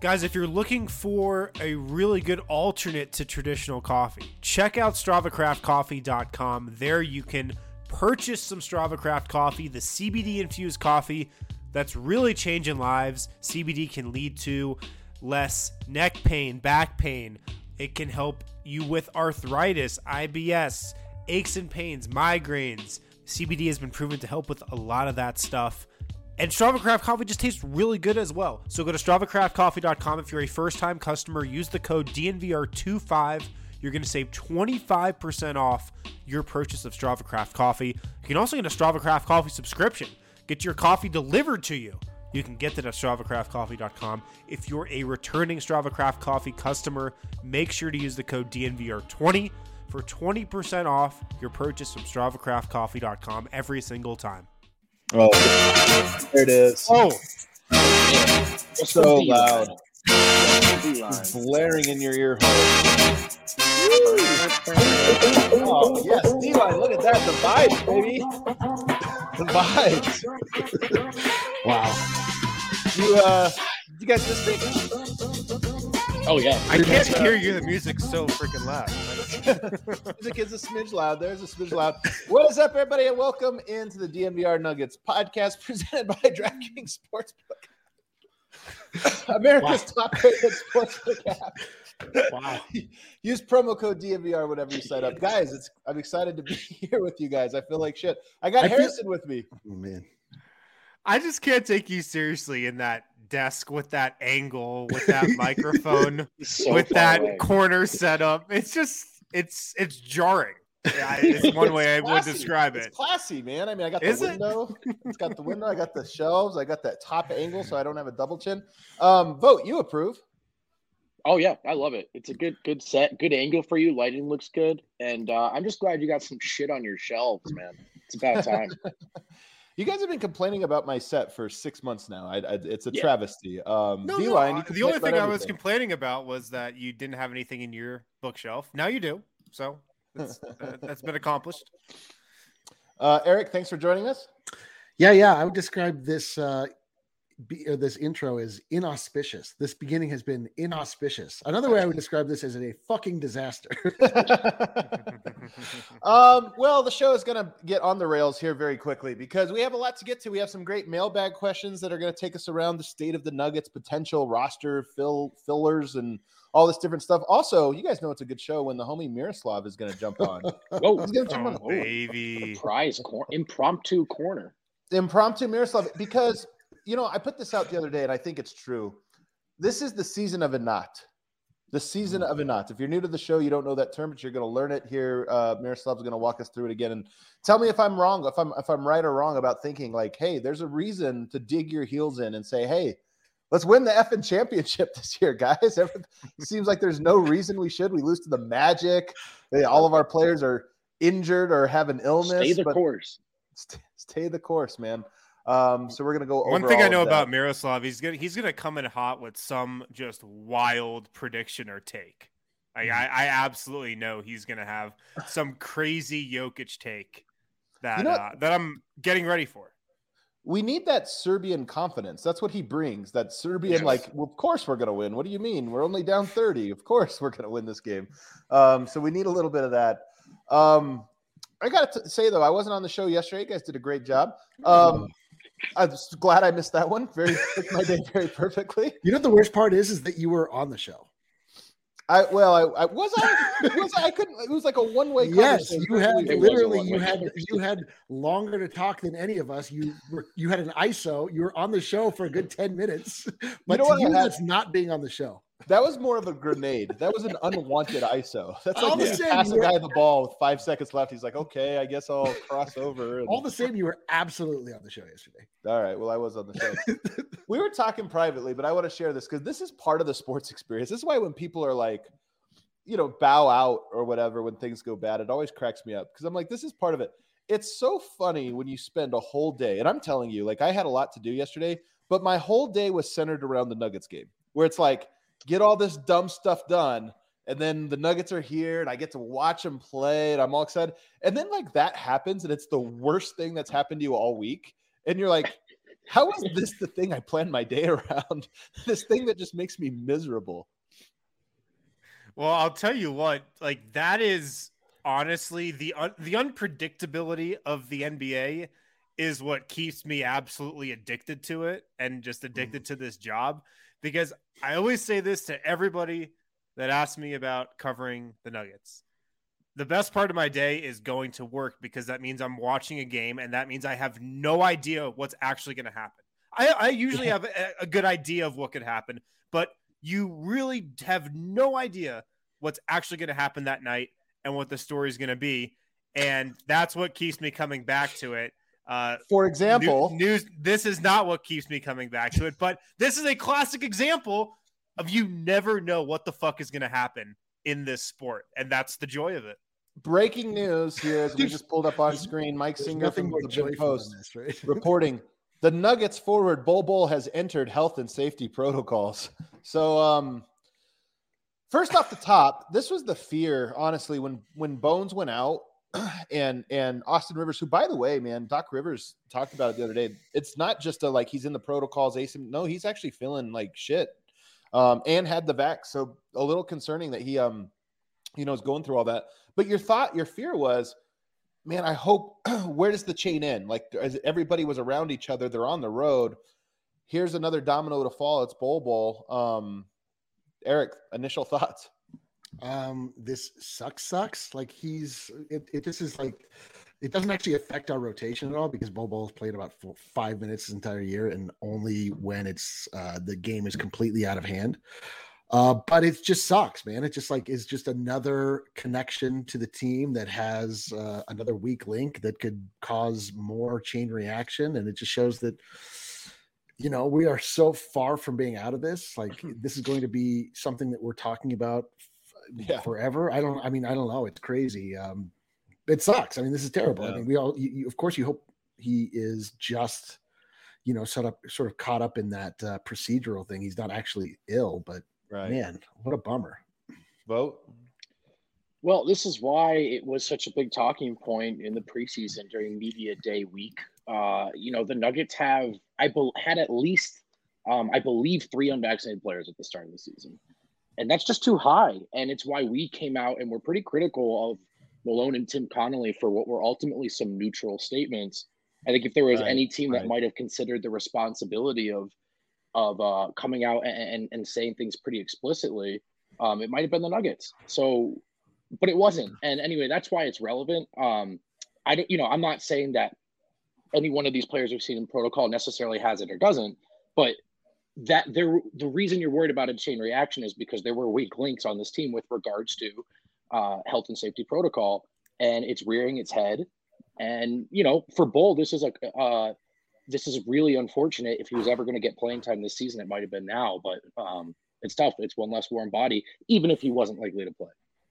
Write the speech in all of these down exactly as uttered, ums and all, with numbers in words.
Guys, if you're looking for a really good alternate to traditional coffee, check out strava craft coffee dot com. There you can purchase some Strava Craft coffee, the C B D-infused coffee that's really changing lives. C B D can lead to less neck pain, back pain. It can help you with arthritis, I B S, aches and pains, migraines. C B D has been proven to help with a lot of that stuff. And Strava Craft coffee just tastes really good as well. So go to strava craft coffee dot com. If you're a first-time customer, use the code D N V R twenty-five. You're going to save twenty-five percent off your purchase of Strava Craft coffee. You can also get a Strava Craft coffee subscription. Get your coffee delivered to you. You can get that at strava craft coffee dot com. If you're a returning Strava Craft coffee customer, make sure to use the code D N V R twenty for twenty percent off your purchase from strava craft coffee dot com every single time. Oh, there it is. Oh, so loud. It's blaring in your ear hole. Oh, yes, D-line, look at that. The vibes, baby. The vibes. Wow. You, uh, you guys listening? Oh, yeah. I can't hear you. The music's so freaking loud. Music is a smidge loud. There's a smidge loud. What is up, everybody, and welcome into the D N V R Nuggets podcast presented by DraftKings Sportsbook. America's wow. top-rated sportsbook app. Wow. Use promo code D N V R whenever you sign up. Guys, it's I'm excited to be here with you guys. I feel like shit. I got I Harrison feel... with me. Oh, man. I just can't take you seriously in that desk with that angle, with that microphone, so with that away. corner setup. It's just, it's it's jarring. Yeah, it's one way I would describe it. It's classy, man. I mean, I got the Is window. It? It's got the window. I got the shelves. I got that top angle, so I don't have a double chin. Um, vote. You approve? Oh yeah, I love it. It's a good, good set, good angle for you. Lighting looks good, and uh, I'm just glad you got some shit on your shelves, man. It's about time. You guys have been complaining about my set for six months now. I, I, it's a yeah. travesty. Um, no, D-line, no, the only thing I was complaining about was that you didn't have anything in your bookshelf. Now you do. So that's, uh, that's been accomplished. Uh, Eric, thanks for joining us. Yeah, yeah. I would describe this uh, be, uh, this intro as inauspicious. This beginning has been inauspicious. Another way I would describe this is a fucking disaster. um, well, the show is going to get on the rails here very quickly because we have a lot to get to. We have some great mailbag questions that are going to take us around the state of the Nuggets, potential roster fill fillers, and all this different stuff. Also, you guys know it's a good show when the homie Miroslav is going to jump on. Whoa, he's going to jump oh, on. Oh, baby. Surprise, cor- impromptu corner. Impromptu Miroslav, because, you know, I put this out the other day, and I think it's true. This is the season of a knot. The season of a knot. If you're new to the show, you don't know that term, but you're going to learn it here. Uh, Miroslav's going to walk us through it again and tell me if I'm wrong, if I'm if I'm right or wrong about thinking like, hey, there's a reason to dig your heels in and say, hey, let's win the effing championship this year, guys. It seems like there's no reason we should. We lose to the Magic. They, all of our players are injured or have an illness. Stay the course. Stay, stay the course, man. Um, so we're gonna go over one thing I know that. about Miroslav. He's gonna he's gonna come in hot with some just wild prediction or take. I I, I absolutely know he's gonna have some crazy Jokic take that you know, uh, that I'm getting ready for. We need that Serbian confidence. That's what he brings. That Serbian, yes. like, well, of course we're gonna win. What do you mean? We're only down thirty. Of course we're gonna win this game. Um, so we need a little bit of that. Um, I got to say though, I wasn't on the show yesterday. You guys did a great job. Um, I'm glad I missed that one. Very took my day very perfectly. You know what the worst part is, is that you were on the show. I well, I, I was I was I couldn't. It was like a one way. Yes, you had literally you had you had longer to talk than any of us. You were you had an I S O. You were on the show for a good ten minutes. But you know to you, that's not being on the show. That was more of a grenade. That was an unwanted I S O. That's like you pass a guy the ball with five seconds left. He's like, okay, I guess I'll cross over. And... All the same, you were absolutely on the show yesterday. All right. Well, I was on the show. We were talking privately, but I want to share this because this is part of the sports experience. This is why when people are like, you know, bow out or whatever when things go bad, it always cracks me up because I'm like, this is part of it. It's so funny when you spend a whole day, and I'm telling you, like I had a lot to do yesterday, but my whole day was centered around the Nuggets game where it's like, get all this dumb stuff done. And then the Nuggets are here and I get to watch them play and I'm all excited. And then like that happens and it's the worst thing that's happened to you all week. And you're like, How is this the thing I plan my day around? This thing that just makes me miserable. Well, I'll tell you what, like that is honestly the un- the unpredictability of the N B A is what keeps me absolutely addicted to it and just addicted to this job, because I always say this to everybody that asks me about covering the Nuggets. The best part of my day is going to work, because that means I'm watching a game, and that means I have no idea what's actually going to happen. I, I usually have a, a good idea of what could happen, but you really have no idea what's actually going to happen that night and what the story is going to be. And that's what keeps me coming back to it. Uh, For example, new, news. This is not what keeps me coming back to it, but this is a classic example of you never know what the fuck is going to happen in this sport, and that's the joy of it. Breaking news here, as we just pulled up on screen. Mike Singer from the Big Post this, right? reporting the Nuggets forward Bol Bol has entered health and safety protocols. So, um, first off the top, this was the fear, honestly, when when Bones went out and and Austin Rivers, who, by the way, man, Doc Rivers talked about it the other day. It's not just a like he's in the protocols, asymptomatic. No, he's actually feeling like shit, um, and had the vax. So a little concerning that he um, you know, is going through all that. But your thought, your fear was, man, I hope, where does the chain end? Like, as everybody was around each other, they're on the road. Here's another domino to fall. It's Bol Bol. Um, Eric, initial thoughts? Um, this sucks, sucks. Like he's, it, it this is like, it doesn't actually affect our rotation at all, because Bol Bol's played about four, five minutes this entire year, and only when it's, uh, the game is completely out of hand. Uh, but it just sucks, man. It just like is just another connection to the team that has uh, another weak link that could cause more chain reaction. And it just shows that, you know, we are so far from being out of this. Like this is going to be something that we're talking about f- Yeah. forever. I don't, I mean, I don't know. It's crazy. Um, it sucks. I mean, this is terrible. Yeah. I mean, we all, you, you, of course you hope he is just, you know, sort of, sort of caught up in that uh, procedural thing. He's not actually ill, but Right. man, what a bummer. Vote. Well, this is why it was such a big talking point in the preseason during media day week. Uh, you know, the Nuggets have, I be- had at least, um, I believe, three unvaccinated players at the start of the season. And that's just too high. And it's why we came out and were pretty critical of Malone and Tim Connolly for what were ultimately some neutral statements. I think if there was Right, any team right. that might have considered the responsibility of of uh, coming out and, and, and saying things pretty explicitly, um, it might have been the Nuggets. So, but it wasn't. And anyway, that's why it's relevant. Um, I don't, you know, I'm not saying that any one of these players we've seen in protocol necessarily has it or doesn't, but that there, the reason you're worried about a chain reaction is because there were weak links on this team with regards to uh, health and safety protocol, and it's rearing its head. And, you know, for Bol, this is a, uh, this is really unfortunate. If he was ever going to get playing time this season, it might have been now, but um, it's tough. It's one less warm body, even if he wasn't likely to play.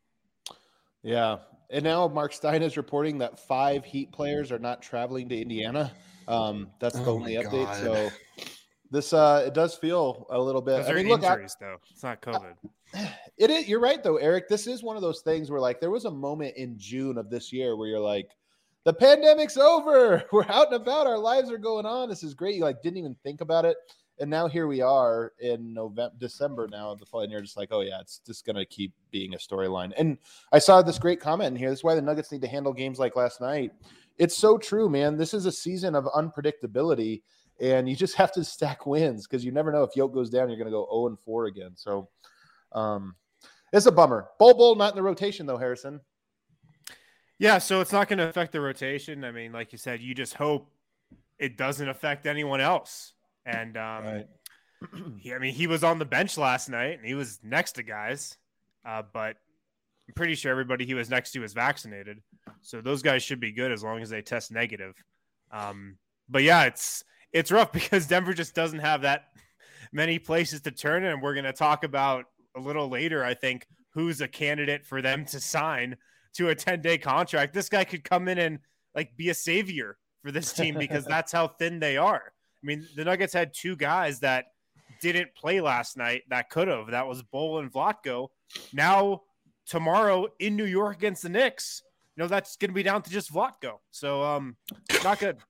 Yeah. And now Mark Stein is reporting that five Heat players are not traveling to Indiana. Um, that's the Oh only my update. God. So this, uh, it does feel a little bit. Those I are mean, look, I, injuries, though. It's not COVID. it is. You're right, though, Eric. This is one of those things where, like, there was a moment in June of this year where you're like, the pandemic's over. We're out and about. Our lives are going on. This is great. You like didn't even think about it. And now here we are in November, December now of the fall, and you're just like, oh yeah, it's just going to keep being a storyline. And I saw this great comment in here. This is why the Nuggets need to handle games like last night. It's so true, man. This is a season of unpredictability, and you just have to stack wins because you never know if Yoke goes down, you're going to go oh and four again. So um, it's a bummer. Bol Bol not in the rotation though, Harrison. Yeah, so it's not going to affect the rotation. I mean, like you said, you just hope it doesn't affect anyone else. And um, Right. he, I mean, he was on the bench last night, and he was next to guys, uh, but I'm pretty sure everybody he was next to is vaccinated. So those guys should be good as long as they test negative. Um, but yeah, it's it's rough because Denver just doesn't have that many places to turn, and we're going to talk about a little later, I think, who's a candidate for them to sign to a ten-day contract. This guy could come in and like be a savior for this team because that's how thin they are. I mean, the Nuggets had two guys that didn't play last night that could have. That was Bol and Vlatko. Now, tomorrow in New York against the Knicks, you know, that's going to be down to just Vlatko. So, um, not good.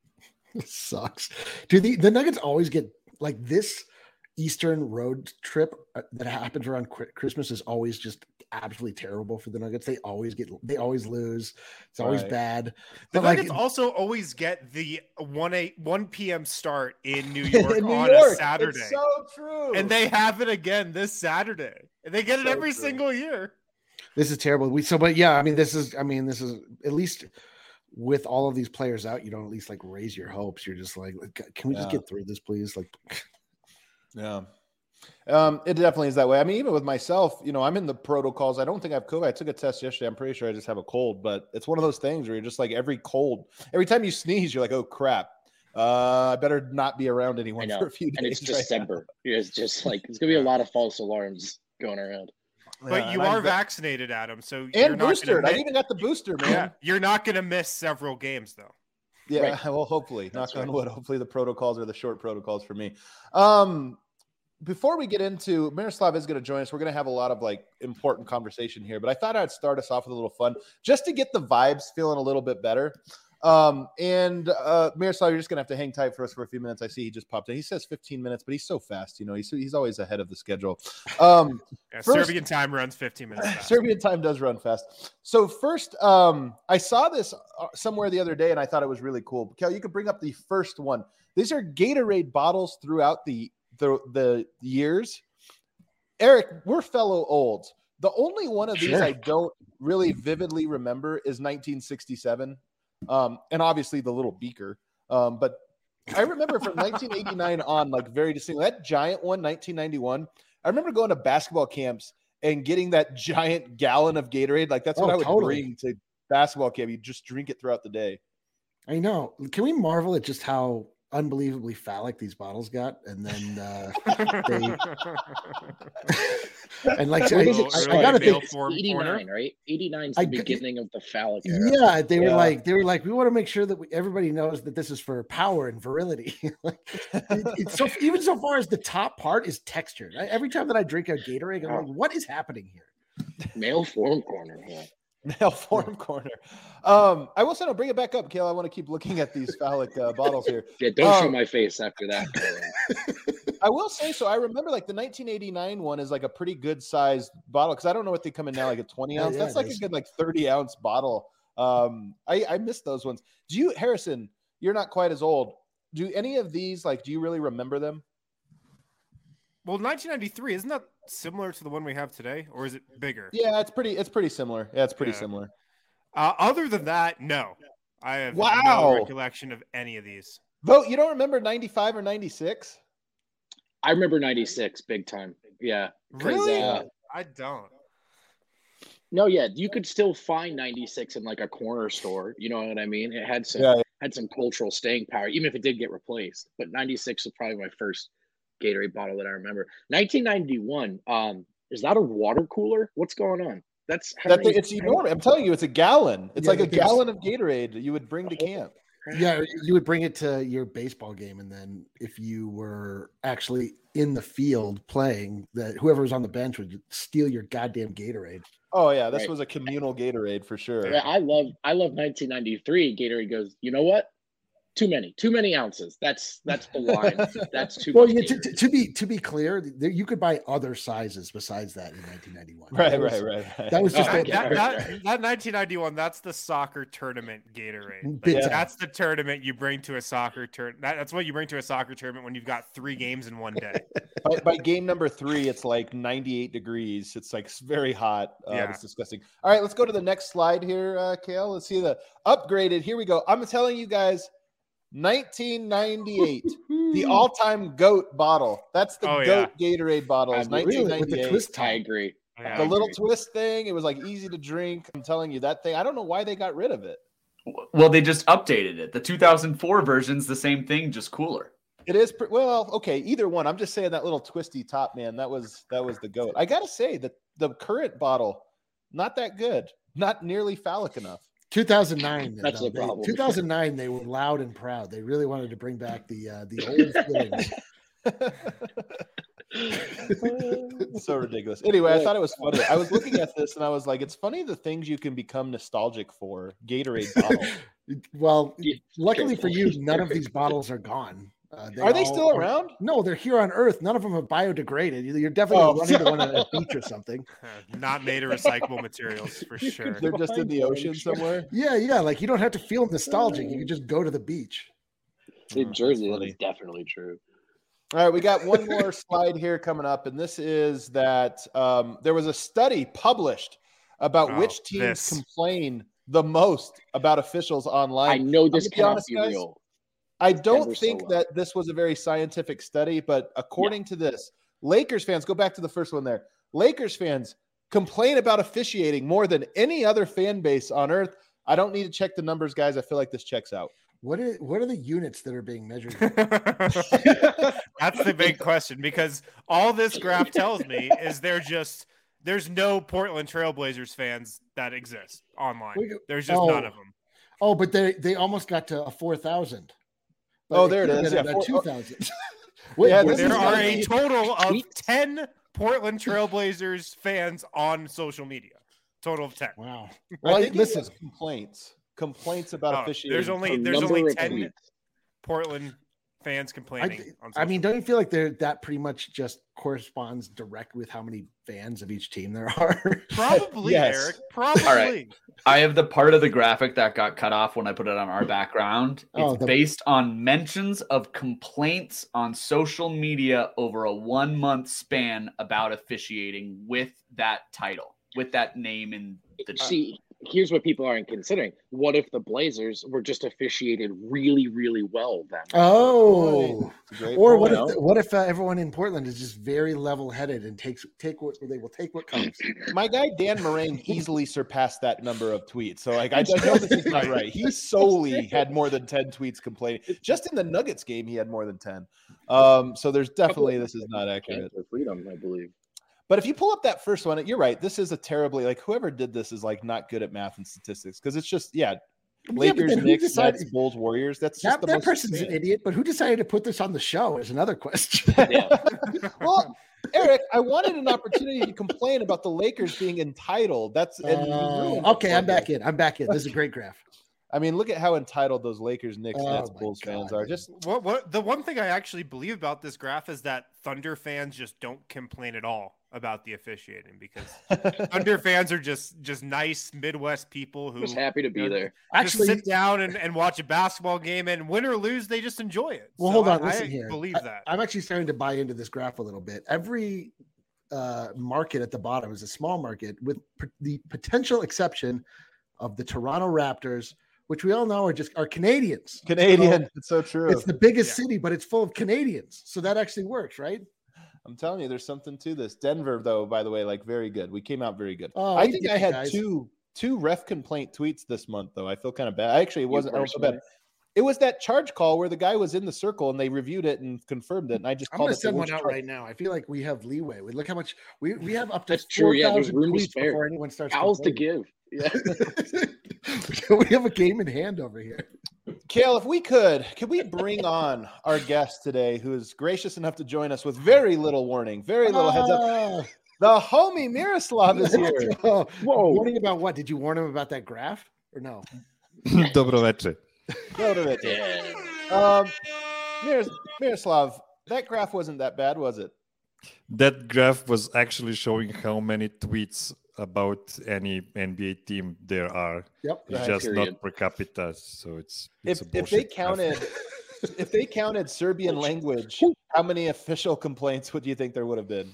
Sucks. Do the the Nuggets always get like this? Eastern road trip that happens around Christmas is always just absolutely terrible for the Nuggets. They always get, they always lose. It's always right. bad. The but Nuggets like, also always get the one a one p.m. start in New York in New on York. a Saturday. It's so true. And they have it again this Saturday. And they get it So every true. single year. This is terrible. We so, but yeah, I mean, this is, I mean, this is at least with all of these players out, you don't at least like raise your hopes. You're just like, can we yeah. just get through this, please? Like. Yeah. Um, it definitely is that way. I mean, even with myself, you know, I'm in the protocols. I don't think I have COVID. I took a test yesterday. I'm pretty sure I just have a cold, but it's one of those things where you're just like every cold, every time you sneeze, you're like, oh crap. Uh, I better not be around anyone for a few days. And it's right December. Now. It's just like, it's going to be a lot of false alarms going around. But yeah, you are are vaccinated, Adam. So and you're not boosted. miss, I even got the booster, man. Yeah, you're not going to miss several games though. Yeah, right. well, hopefully, That's knock on right. wood. Hopefully, the protocols are the short protocols for me. Um, before we get into Miroslav is going to join us, we're going to have a lot of like important conversation here. But I thought I'd start us off with a little fun, just to get the vibes feeling a little bit better. Um, and uh, Miroslav, you're just going to have to hang tight for us for a few minutes. I see he just popped in. He says fifteen minutes, but he's so fast. You know, he's he's always ahead of the schedule. Um, yeah, first, Serbian time runs fifteen minutes fast. Serbian time does run fast. So first, um, I saw this somewhere the other day, and I thought it was really cool. Kel, you could bring up the first one. These are Gatorade bottles throughout the the, the years. Eric, we're fellow olds. The only one of these Sure. I don't really vividly remember is nineteen sixty-seven. Um, and obviously the little beaker. Um, but I remember from nineteen eighty-nine on, like very distinctly, that giant one, nineteen ninety-one. I remember going to basketball camps and getting that giant gallon of Gatorade. Like that's what Oh, I would totally. bring to basketball camp. You just drink it throughout the day. I know. Can we marvel at just how unbelievably phallic these bottles got? And then, uh, they, and like, I, What is it? I, Really I gotta male think, form eighty-nine, corner. right? eighty-nine is the I- beginning of the phallic era. yeah, they were Yeah. like, they were like, we want to make sure that we, everybody knows that this is for power and virility. Like, it, it's so even so far as the top part is textured. I, every time that I drink a Gatorade, I'm like, what is happening here? Male form corner. Yeah. Male form corner. Um, I will say, no, bring it back up, Kale. I want to keep looking at these phallic uh, bottles here. Yeah, don't show Um, my face after that. I will say so. I remember like the nineteen eighty-nine one is like a pretty good sized bottle because I don't know what they come in now, like a twenty Yeah, ounce. yeah, That's it like is. a good like thirty ounce bottle. Um, I I miss those ones. Do you, Harrison? You're not quite as old. Do any of these like? Do you really remember them? Well, nineteen ninety-three, isn't that similar to the one we have today? Or is it bigger? Yeah, it's pretty. It's pretty similar. Yeah, it's pretty Yeah. similar. Uh, other than that, no. I have Wow. no recollection of any of these. Vote. You don't remember ninety-five or ninety-six? I remember ninety-six big time. Yeah. 'cause, Really? Uh, I don't. no, yeah, you could still find ninety-six in like a corner store. You know what I mean? It had some Yeah. had some cultural staying power, even if it did get replaced. But ninety-six was probably my first Gatorade bottle that I remember. nineteen ninety-one. Um, is that a water cooler? What's going on? That's how That many- it's enormous. I'm telling you, it's a gallon. It's Yeah, like a but there's- gallon of Gatorade you would bring to camp. Yeah, you would bring it to your baseball game, and then if you were actually in the field playing, that whoever was on the bench would steal your goddamn Gatorade. Oh yeah, this Right. was a communal Gatorade for sure. Yeah, I love I love nineteen ninety-three. Gatorade goes, you know what? Too many, too many ounces. That's that's the line. That's too Well, much. yeah, to, Gatorade. to, to be to be clear, there, you could buy other sizes besides that in nineteen ninety-one. Right, That was- right, right, right. That was just Oh, That, a- okay. that, that, that nineteen ninety-one, that's the soccer tournament Gatorade. Like, Big time. That's the tournament you bring to a soccer tournament. That, that's what you bring to a soccer tournament when you've got three games in one day. by, by game number three, it's like ninety-eight degrees. It's like very hot. Uh, Yeah. It's disgusting. All right, let's go to the next slide here, uh, Kale. Let's see the upgraded. Here we go. I'm telling you guys, nineteen ninety-eight, the all-time GOAT bottle. That's the Oh, GOAT Gatorade bottle. I Is agree. Really, with the nineteen ninety-eight. twist I tie. agree. Yeah. The I little agree. twist thing. It was like easy to drink. I'm telling you that thing. I don't know why they got rid of it. Well, they just updated it. The two thousand four version's the same thing, just cooler. It is pre- well, okay. Either one. I'm just saying that little twisty top, man. That was that was the goat. I gotta say that the current bottle, not that good. Not nearly phallic enough. two thousand nine. That's though, the they- problem. two thousand nine, they were loud and proud. They really wanted to bring back the uh, the old feelings. It's so ridiculous. Anyway, I thought it was funny. I was looking at this and I was like, it's funny the things you can become nostalgic for. Gatorade bottle. Well, Yeah, luckily careful. for you, none of these bottles are gone. Uh, Are they all still around? No, they're here on Earth. None of them have biodegraded. You're definitely Oh. running to one at a beach or something. Not made of recyclable materials for You sure. could- They're just in the Fine, ocean sure. somewhere. Yeah, yeah. Like you don't have to feel nostalgic. You can just go to the beach. In Oh, Jersey, that's that funny. is definitely true. All right, we got one more slide here coming up, and this is that um, there was a study published about Oh, which teams this. complain the most about officials online. I know this gonna be cannot honest, be guys, real. I don't Denver think Solo. that this was a very scientific study, but according to this, Lakers fans, go back to the first one there. Lakers fans complain about officiating more than any other fan base on earth. I don't need to check the numbers, guys. I feel like this checks out. What are what are the units that are being measured? That's the big question, because all this graph tells me is they're just there's no Portland Trailblazers fans that exist online. We go- There's just oh. none of them. Oh, but they they almost got to a four thousand. Oh, there it is. Yeah, four- two thousand. Yeah, this There is are gonna a be- total of tweets. ten Portland Trailblazers fans on social media. Total of ten. Wow. I Well, think it listen. was complaints. Complaints about Oh, officiating. there's only A there's number only of ten tweets. Portland fans I, complaining. th- on I social mean, don't you feel like there that pretty much just corresponds direct with how many fans of each team there are? Probably, Yes. Eric. Probably. All right. I have the part of the graphic that got cut off when I put it on our background. It's Oh, the- based on mentions of complaints on social media over a one month span about officiating with that title, with that name in the See, here's what people aren't considering. What if the Blazers were just officiated really, really well then? Oh, It's a great or point. what point. if what if uh, everyone in Portland is just very level headed and takes take what they will take what comes? My guy Dan Moraine easily surpassed that number of tweets. So like I, I know this is not right. He solely had more than ten tweets complaining. Just in the Nuggets game, he had more than ten. Um, so there's definitely this is not accurate. For freedom, I believe. But if you pull up that first one, you're right. This is a terribly like whoever did this is like not good at math and statistics because it's just yeah, but Lakers, then who Knicks, decided- Nets, Bulls, Warriors. That's just That, the that most person's an insane. idiot, but who decided to put this on the show is another question. Yeah. Well, Eric, I wanted an opportunity to complain about the Lakers being entitled. That's and you Uh, ruined it okay, for I'm me. back in. I'm back in. This is a great graph. I mean, look at how entitled those Lakers, Knicks, Oh Nets, my Bulls fans God. are. Just What what the one thing I actually believe about this graph is that Thunder fans just don't complain at all about the officiating because Thunder fans are just just nice Midwest people who Just happy to be you know, there. just Actually, sit down and, and watch a basketball game, and win or lose, they just enjoy it. well, So hold on. I, Listen I here. believe I- that. I'm actually starting to buy into this graph a little bit. Every uh, market at the bottom is a small market, with p- the potential exception of the Toronto Raptors, which we all know are just are Canadians. Canadian. It's so true. It's the biggest Yeah. city, but it's full of Canadians, so that actually works, right? I'm telling you, there's something to this. Denver, though, by the way, like very good. We came out very good. Oh, I we think did, I had guys. two two ref complaint tweets this month, though. I feel kind of bad. Actually, it wasn't. I don't feel personally? bad. It was that charge call where the guy was in the circle and they reviewed it and confirmed it, and I just I'm called going it to the send one worst out charge. right now. I feel like we have leeway. We look how much we, we have up to That's true, yeah, there's 4,000 room to tweets spare. before anyone starts. Owls to complaining. give. Yeah. We have a game in hand over here. Kale, if we could, could we bring on our guest today, who is gracious enough to join us with very little warning, very little heads up? Ah, The homie Miroslav is here. oh, Whoa. warning about what? Did you warn him about that graph or no? Dobro večer. Go to it. Yeah. Um, Miros- Miroslav, that graph wasn't that bad, was it? That graph was actually showing how many tweets about any N B A team there are. Yep. It's Right, just period. not per capita, so it's, it's If a if they bullshit graph. counted, if they counted Serbian language, how many official complaints would you think there would have been?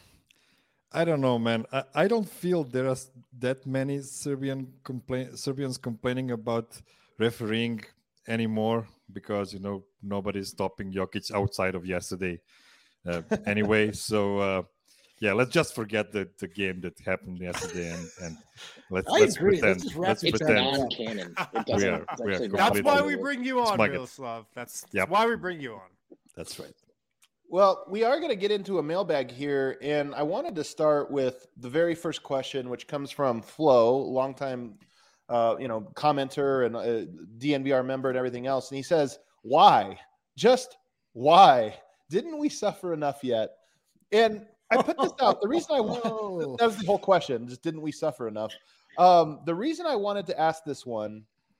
I don't know, man. I, I don't feel there are s- that many Serbian complain Serbians complaining about refereeing anymore because you know nobody's stopping Jokic outside of yesterday uh, anyway. So uh, yeah, let's just forget the, the game that happened yesterday and, and let's I let's agree. Let's pretend. just wrap Let's this It's pretend. down. non-canon. It We doesn't. are- it's we are actually That's not why canon. we bring you on, Smug it. Miroslav. That's, that's Yep. why we bring you on. That's right. Well, we are going to get into a mailbag here, and I wanted to start with the very first question, which comes from Flo, longtime, uh, you know, commenter and uh, D N V R member and everything else, and he says, "Why? Just why? Didn't we suffer enough yet?" And I put this out. The reason I Whoa. that was the whole question. Just didn't we suffer enough? Um, the reason I wanted to ask this one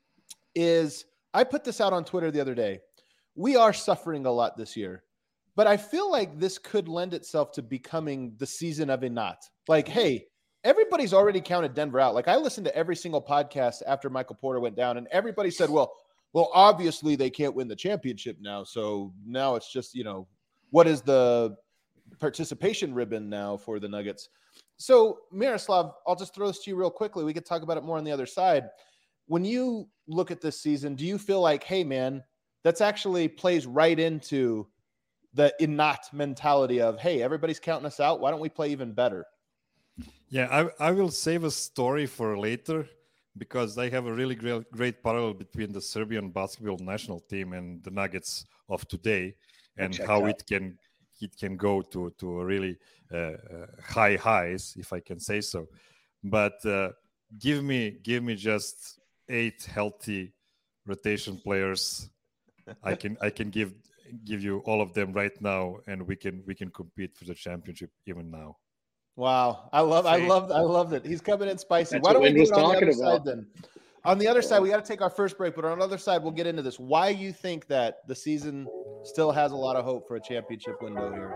is I put this out on Twitter the other day. We are suffering a lot this year, but I feel like this could lend itself to becoming the season of a not. Like, hey, everybody's already counted Denver out. Like, I listened to every single podcast after Michael Porter went down, and everybody said, well, well, obviously they can't win the championship now. So now it's just, you know, what is the participation ribbon now for the Nuggets? So, Miroslav, I'll just throw this to you real quickly. We could talk about it more on the other side. When you look at this season, do you feel like, hey, man, that's actually plays right into the innate mentality of, hey, everybody's counting us out. Why don't we play even better? Yeah, I, I will save a story for later because I have a really great, great parallel between the Serbian basketball national team and the Nuggets of today and how it can it can go to, to a really uh, uh, high highs, if I can say so. But uh, give me give me just eight healthy rotation players. I can I can give give you all of them right now, and we can we can compete for the championship even now. Wow, I love I love I love it. He's coming in spicy. That's Why don't we what do Wynn it on was the other talking about. side then? On the other side, we got to take our first break, but on the other side, we'll get into this. Why you think that the season still has a lot of hope for a championship window here?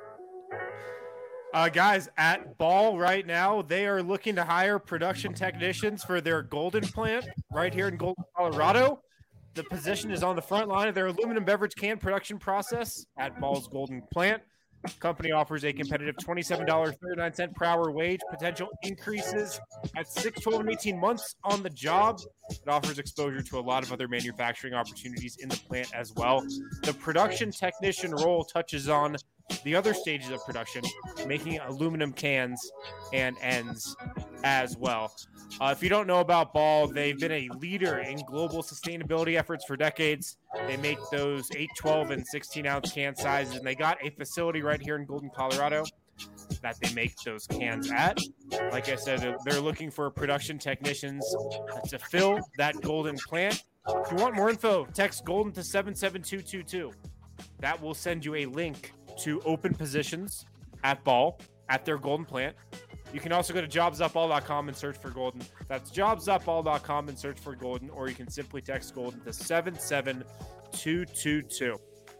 Uh, guys, at Ball right now, they are looking to hire production technicians for their Golden plant right here in Golden, Colorado. The position is on the front line of their aluminum beverage can production process at Ball's Golden plant. Company offers a competitive twenty-seven dollars and thirty-nine cents per hour wage, potential increases at six, twelve, and eighteen months on the job. It offers exposure to a lot of other manufacturing opportunities in the plant as well. The production technician role touches on the other stages of production, making aluminum cans and ends as well. Uh, if you don't know about Ball, they've been a leader in global sustainability efforts for decades. They make those eight, twelve, and sixteen ounce can sizes, and they got a facility right here in Golden, Colorado that they make those cans at. Like I said, they're, they're looking for production technicians to fill that Golden plant. If you want more info, text Golden to seven seven two two two. That will send you a link to open positions at Ball at their Golden plant. You can also go to jobs up all dot com and search for Golden. That's jobs up all dot com and search for Golden, or you can simply text Golden to seven seven two two two.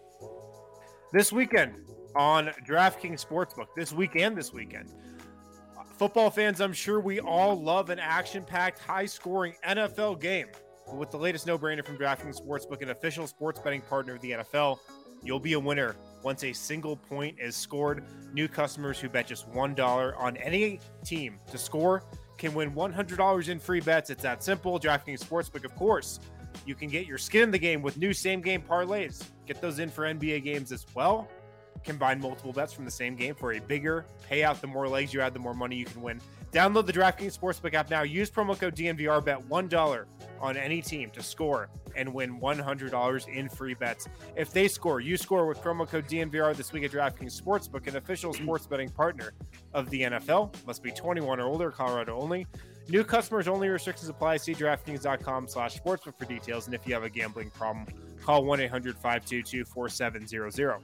This weekend on DraftKings Sportsbook, this weekend, this weekend, football fans, I'm sure we all love an action-packed, high-scoring N F L game. But with the latest no-brainer from DraftKings Sportsbook, an official sports betting partner of the N F L, you'll be a winner once a single point is scored. New customers who bet just one dollar on any team to score can win one hundred dollars in free bets. It's that simple. DraftKings Sportsbook, of course. You can get your skin in the game with new same-game parlays. Get those in for N B A games as well. Combine multiple bets from the same game for a bigger payout. The more legs you add, the more money you can win. Download the DraftKings Sportsbook app now. Use promo code D N V R. Bet one dollar on any team to score and win one hundred dollars in free bets. If they score, you score with promo code D N V R this week at DraftKings Sportsbook, an official sports betting partner of the N F L. Must be twenty-one or older, Colorado only. New customers only. Restrictions apply. See DraftKings.com slash sportsbook for details. And if you have a gambling problem, call one eight hundred five two two four seven zero zero.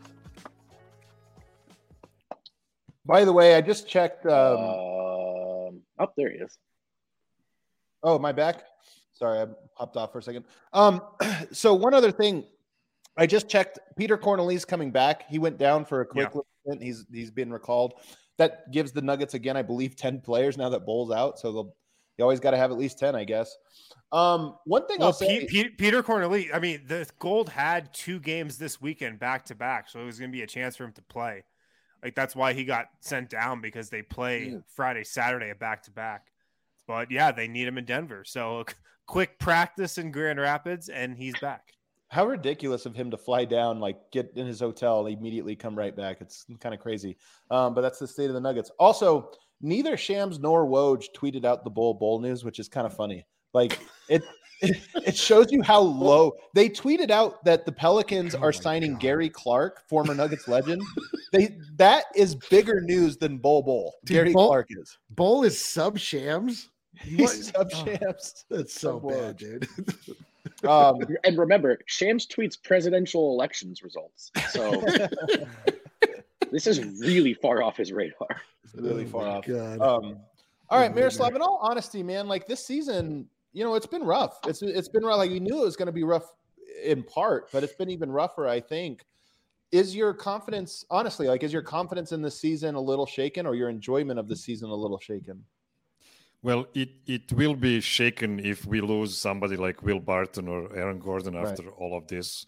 By the way, I just checked. Um, Um, oh, there he is. oh, am I back? Sorry, I hopped off for a second. Um, so one other thing, I just checked. Peter Cornelius coming back. He went down for a quick Yeah. little stint. He's he's been recalled. That gives the Nuggets again, I believe, ten players now that Bull's out. So they'll you always got to have at least ten, I guess. Um, one thing Well, I'll say, P- P- Peter Cornelius, I mean, the Gold had two games this weekend back to back, so it was going to be a chance for him to play. Like, that's why he got sent down, because they play Yeah. Friday, Saturday at back to back. But yeah, they need him in Denver. So quick practice in Grand Rapids, and he's back. how ridiculous of him to fly down, like get in his hotel, and immediately come right back. It's kind of crazy. Um, but that's the state of the Nuggets. Also, neither Shams nor Woj tweeted out the Bull Bull news, which is kind of funny. Like it, it, it shows you how low they tweeted out that the Pelicans Oh are my signing God. Gary Clark, former Nuggets legend. They that is bigger news than Bull Bull. Dude, Gary Bull- Clark is. Bull is sub Shams. He's sub Oh, Shams. that's so Sub bad, Woj. dude. Um, And remember, Shams tweets presidential elections results. So this is really far off his radar. really Oh far my off. God. Um, all right, Good Miroslav, leader. in all honesty, man, like this season, you know, it's been rough. It's it's been rough. Like you knew it was going to be rough in part, but it's been even rougher, I think. Is your confidence, honestly, like is your confidence in the season a little shaken, or your enjoyment of the season a little shaken? Well, it, it will be shaken if we lose somebody like Will Barton or Aaron Gordon after right. all of this.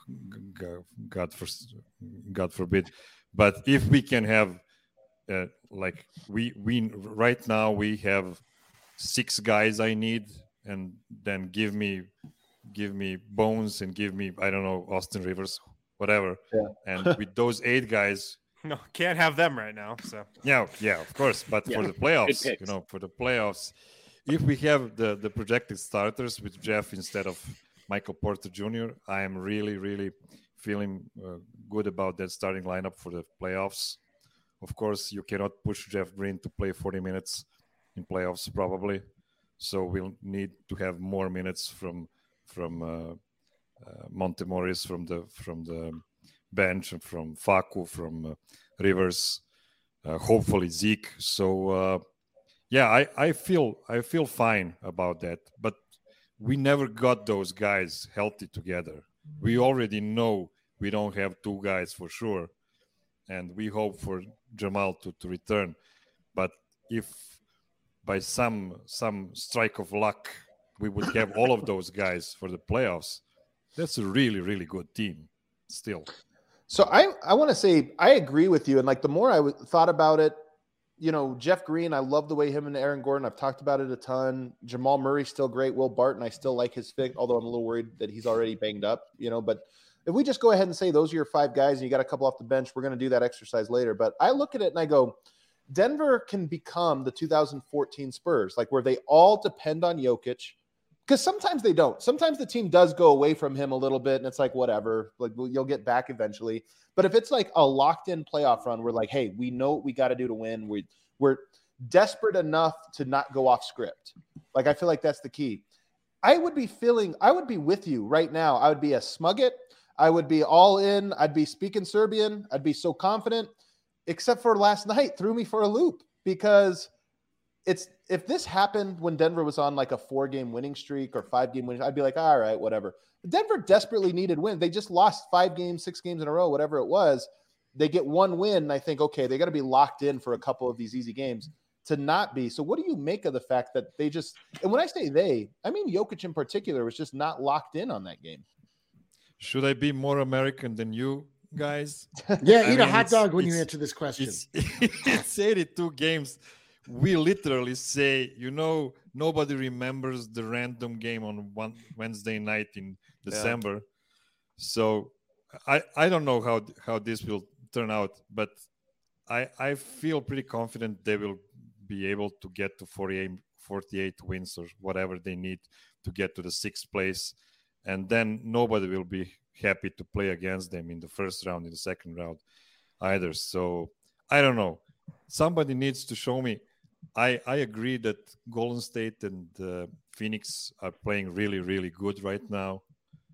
God, for, God forbid. But if we can have, uh, like we we right now we have six guys I need, and then give me give me Bones and give me I don't know Austin Rivers, whatever. Yeah. And with those eight guys. No, can't have them right now. So yeah, yeah, of course. But yeah. for the playoffs, you know, for the playoffs, if we have the the projected starters with Jeff instead of Michael Porter Junior, I am really, really feeling uh, good about that starting lineup for the playoffs. Of course, you cannot push Jeff Green to play forty minutes in playoffs, probably. So we'll need to have more minutes from from uh, uh, Monte Morris from the from the bench, and from Facu, from uh, Rivers, uh, hopefully Zeke. So uh, yeah, I, I feel I feel fine about that. But we never got those guys healthy together. We already know we don't have two guys for sure, and we hope for Jamal to, to return. But if by some some strike of luck we would have all of those guys for the playoffs, that's a really, really good team still. So I, I want to say I agree with you. And like the more I w- thought about it, you know, Jeff Green, I love the way him and Aaron Gordon, I've talked about it a ton. Jamal Murray, still great. Will Barton, I still like his fit, although I'm a little worried that he's already banged up, you know. But if we just go ahead and say those are your five guys and you got a couple off the bench, we're going to do that exercise later. But I look at it and I go, Denver can become the two thousand fourteen Spurs, like where they all depend on Jokic. Because sometimes they don't. Sometimes the team does go away from him a little bit, and it's like, whatever. Like, you'll get back eventually. But if it's like a locked-in playoff run, we're like, hey, we know what we got to do to win. We, we're desperate enough to not go off script. Like, I feel like that's the key. I would be feeling – I would be with you right now. I would be a Smugget. I would be all in. I'd be speaking Serbian. I'd be so confident. Except for last night threw me for a loop because – It's if this happened when Denver was on like a four-game winning streak or five-game winning, I'd be like, all right, whatever. Denver desperately needed win. They just lost five games, six games in a row, whatever it was. They get one win, and I think, okay, they got to be locked in for a couple of these easy games to not be. So what do you make of the fact that they just – and when I say they, I mean Jokic in particular was just not locked in on that game. Should I be more American than you guys? Yeah, I eat mean, a hot dog when you it's- answer this question. It's, it's eighty-two games. We literally say, you know, nobody remembers the random game on one Wednesday night in December. Yeah. So I, I don't know how how this will turn out, but I I feel pretty confident they will be able to get to forty-eight, forty-eight wins or whatever they need to get to the sixth place. And then nobody will be happy to play against them in the first round, in the second round either. So I don't know. Somebody needs to show me. I, I agree that Golden State and uh, Phoenix are playing really, really good right now.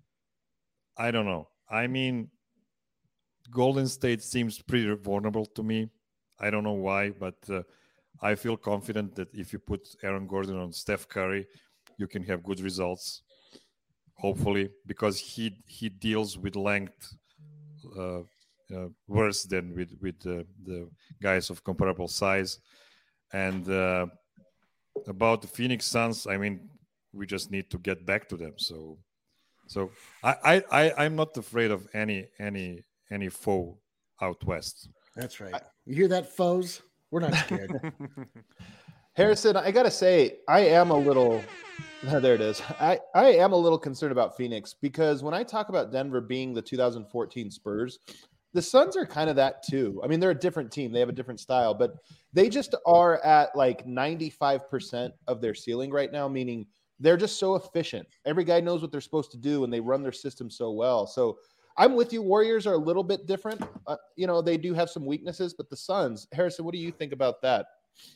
I don't know. I mean, Golden State seems pretty vulnerable to me. I don't know why, but uh, I feel confident that if you put Aaron Gordon on Steph Curry, you can have good results, hopefully, because he he deals with length uh, uh, worse than with, with uh, the guys of comparable size. And uh, about the Phoenix Suns, I mean, we just need to get back to them. So, so I, I, I I'm not afraid of any any any foe out west. That's right. You hear that, foes? We're not scared. Harrison, I gotta say, I am a little. There it is. I I am a little concerned about Phoenix because when I talk about Denver being the two thousand fourteen Spurs, the Suns are kind of that too. I mean, they're a different team. They have a different style, but they just are at like ninety-five percent of their ceiling right now, meaning they're just so efficient. Every guy knows what they're supposed to do, and they run their system so well. So I'm with you. Warriors are a little bit different. Uh, you know, they do have some weaknesses, but the Suns, Harrison, what do you think about that?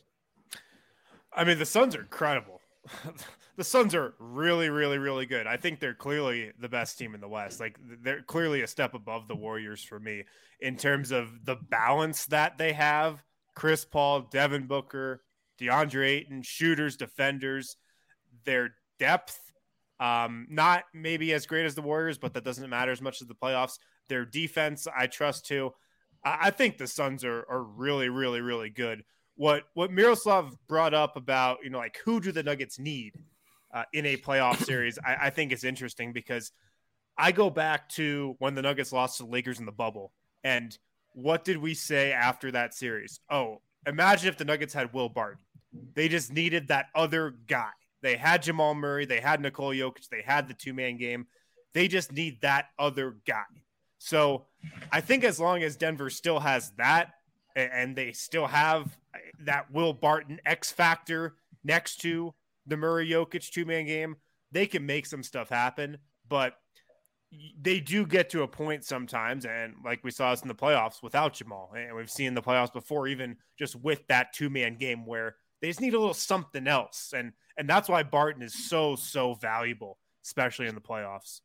I mean, the Suns are incredible. The Suns are really, really, really good. I think they're clearly the best team in the West. Like, they're clearly a step above the Warriors for me in terms of the balance that they have. Chris Paul, Devin Booker, DeAndre Ayton, shooters, defenders. Their depth, um, not maybe as great as the Warriors, but that doesn't matter as much as the playoffs. Their defense, I trust too. I, I think the Suns are are really, really, really good. What what Miroslav brought up about, you know, like who do the Nuggets need uh, in a playoff series, I, I think is interesting because I go back to when the Nuggets lost to the Lakers in the bubble. And what did we say after that series? Oh, imagine if the Nuggets had Will Barton. They just needed that other guy. They had Jamal Murray. They had Nikola Jokic. They had the two-man game. They just need that other guy. So I think as long as Denver still has that and they still have that Will Barton X factor next to the Murray Jokic two-man game, they can make some stuff happen. But they do get to a point sometimes, and like we saw us in the playoffs without Jamal, and we've seen the playoffs before, even just with that two-man game where they just need a little something else. And and that's why Barton is so, so valuable, especially in the playoffs.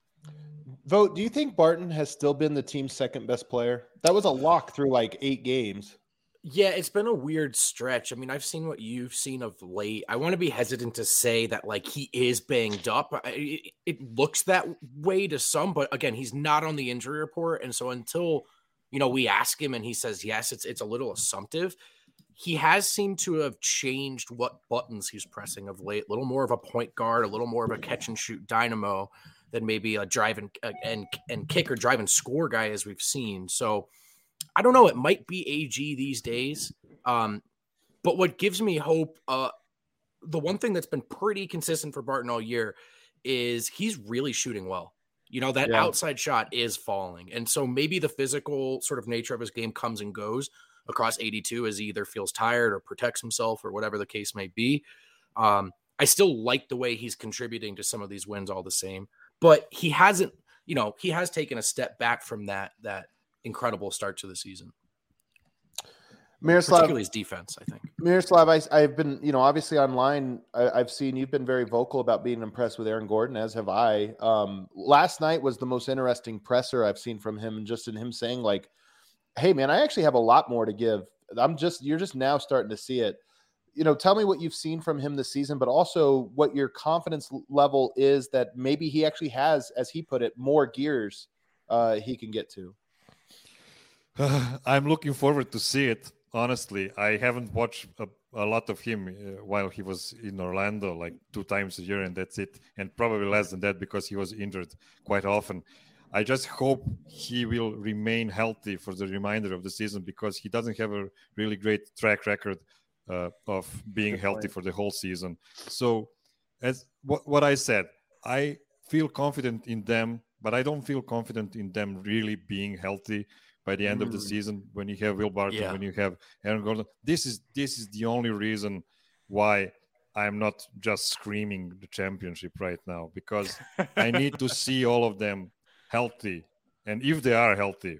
Vogt, do you think Barton has still been the team's second best player? That was a lock through like eight games. Yeah, it's been a weird stretch. I mean, I've seen what you've seen of late. I want to be hesitant to say that, like, he is banged up. It, it looks that way to some, but again, he's not on the injury report. And so until, you know, we ask him and he says, yes, it's it's a little assumptive. He has seemed to have changed what buttons he's pressing of late. A little more of a point guard, a little more of a catch and shoot dynamo than maybe a drive and, and, and kick or drive and score guy as we've seen. So I don't know. It might be A G these days. Um, but what gives me hope, uh, the one thing that's been pretty consistent for Barton all year is he's really shooting well. You know, that yeah. outside shot is falling. And so maybe the physical sort of nature of his game comes and goes across eighty-two as he either feels tired or protects himself or whatever the case may be. Um, I still like the way he's contributing to some of these wins all the same, but he hasn't, you know, he has taken a step back from that, that, incredible start to the season. Miroslav, particularly his defense, I think. Miroslav, I, I've been, you know, obviously online, I, I've seen you've been very vocal about being impressed with Aaron Gordon, as have I. Um, last night was the most interesting presser I've seen from him, just in him saying, like, hey, man, I actually have a lot more to give. I'm just, you're just now starting to see it. You know, tell me what you've seen from him this season, but also what your confidence level is that maybe he actually has, as he put it, more gears uh, he can get to. Uh, I'm looking forward to see it. Honestly, I haven't watched a, a lot of him uh, while he was in Orlando, like two times a year, and that's it. And probably less than that because he was injured quite often. I just hope he will remain healthy for the remainder of the season because he doesn't have a really great track record uh, of being healthy for the whole season. So, as what, what I said, I feel confident in them, but I don't feel confident in them really being healthy by the end mm. of the season when you have Will Barton, yeah. when you have Aaron Gordon. This is this is the only reason why I'm not just screaming the championship right now, because I need to see all of them healthy. And if they are healthy,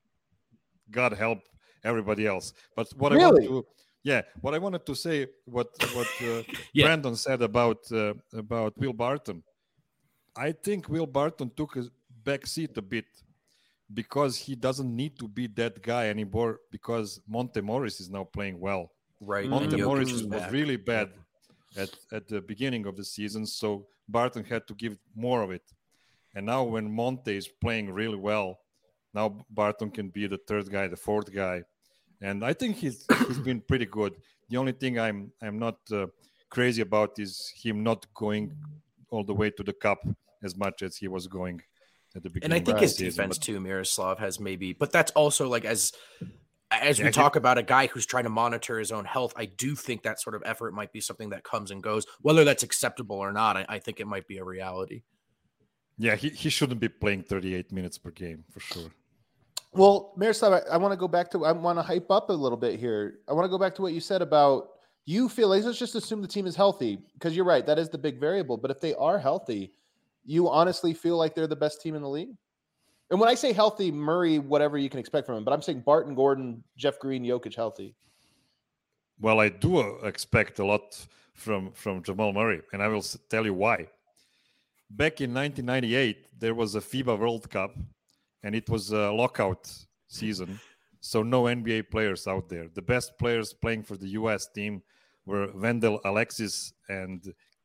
God help everybody else. But what really? I want to yeah, what I wanted to say, what what uh, yeah. Brandon said about uh, about Will Barton, I think Will Barton took a back seat a bit, because he doesn't need to be that guy anymore because Monte Morris is now playing well. Right. Monte mm-hmm. Morris was back. really bad at, at the beginning of the season, so Barton had to give more of it. And now when Monte is playing really well, now Barton can be the third guy, the fourth guy. And I think he's he's been pretty good. The only thing I'm I'm not uh, crazy about is him not going all the way to the cup as much as he was going at the beginning. And I think of his season, defense but... too, Miroslav, has maybe, but that's also like as as yeah, we talk about a guy who's trying to monitor his own health, I do think that sort of effort might be something that comes and goes. Whether that's acceptable or not, I, I think it might be a reality. Yeah, he, he shouldn't be playing thirty-eight minutes per game for sure. Well, Miroslav, I, I want to go back to, I want to hype up a little bit here. I want to go back to what you said about, you feel like, let's just assume the team is healthy, because you're right, that is the big variable. But if they are healthy, you honestly feel like they're the best team in the league? And when I say healthy, Murray, whatever you can expect from him, but I'm saying Barton, Gordon, Jeff Green, Jokic healthy. Well, I do expect a lot from, from Jamal Murray, and I will tell you why. Back in nineteen ninety-eight, there was a FIBA World Cup, and it was a lockout season, so no N B A players out there. The best players playing for the U S team were Wendell Alexis and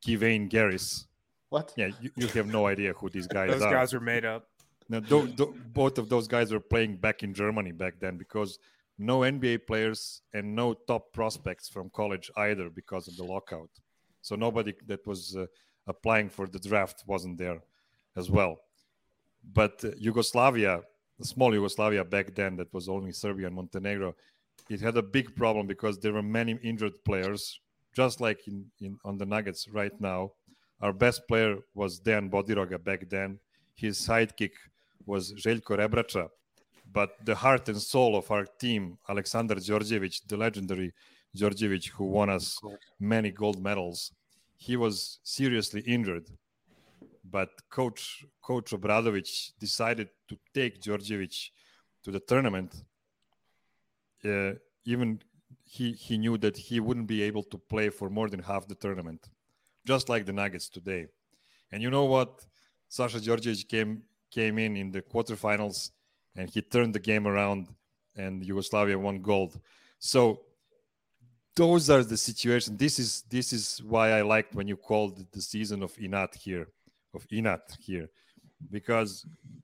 Kevin Garris. What? Yeah, you, you have no idea who these guys Those are. guys are made up. Now, tho- tho- both of those guys were playing back in Germany back then because no N B A players and no top prospects from college either because of the lockout. So nobody that was uh, applying for the draft wasn't there as well. But uh, Yugoslavia, the small Yugoslavia back then that was only Serbia and Montenegro, it had a big problem because there were many injured players, just like in, in on the Nuggets right now. Our best player was Dejan Bodiroga back then. His sidekick was Željko Rebrača. But the heart and soul of our team, Aleksandar Đorđević, the legendary Đorđević who won us many gold medals, he was seriously injured. But Coach Coach Obradović decided to take Đorđević to the tournament. Uh, even he, he knew that he wouldn't be able to play for more than half the tournament, just like the Nuggets today. And you know what? Sasha Đorđević came came in in the quarterfinals, and he turned the game around, and Yugoslavia won gold. So those are the situations. This is this is why I liked when you called it the season of Inat here, of Inat here, because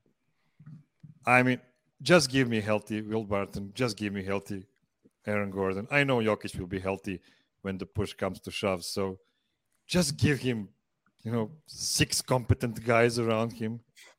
I mean, just give me healthy Will Barton, just give me healthy Aaron Gordon. I know Jokic will be healthy when the push comes to shove, so just give him, you know, six competent guys around him.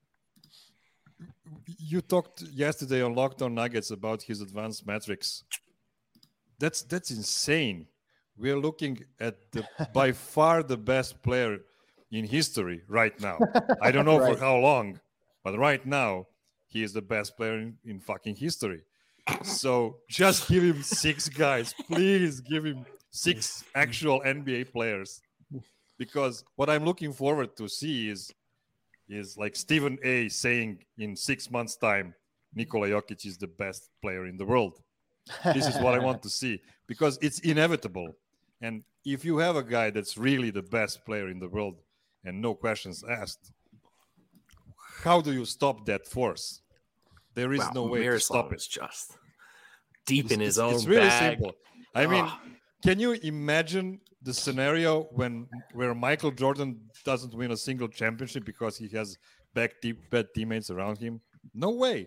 You talked yesterday on Locked On Nuggets about his advanced metrics. That's that's insane. We're looking at the by far the best player in history right now. I don't know right. for how long, but right now he is the best player in, in fucking history. So just give him six guys. Please give him six actual N B A players. Because what I'm looking forward to see is is like Stephen A saying in six months' time, Nikola Jokic is the best player in the world. This is what I want to see because it's inevitable. And if you have a guy that's really the best player in the world and no questions asked, how do you stop that force? There is wow, no way Miroslav to stop it. Is just deep in it's, his own It's really bag. simple. I mean, oh. Can you imagine the scenario when where Michael Jordan doesn't win a single championship because he has bad, te- bad teammates around him? No way.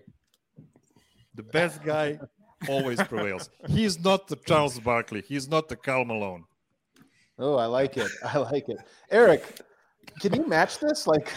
The best guy always prevails. He's not the Charles Barkley. He's not the Karl Malone. Oh, I like it. I like it. Eric, can you match this? Like,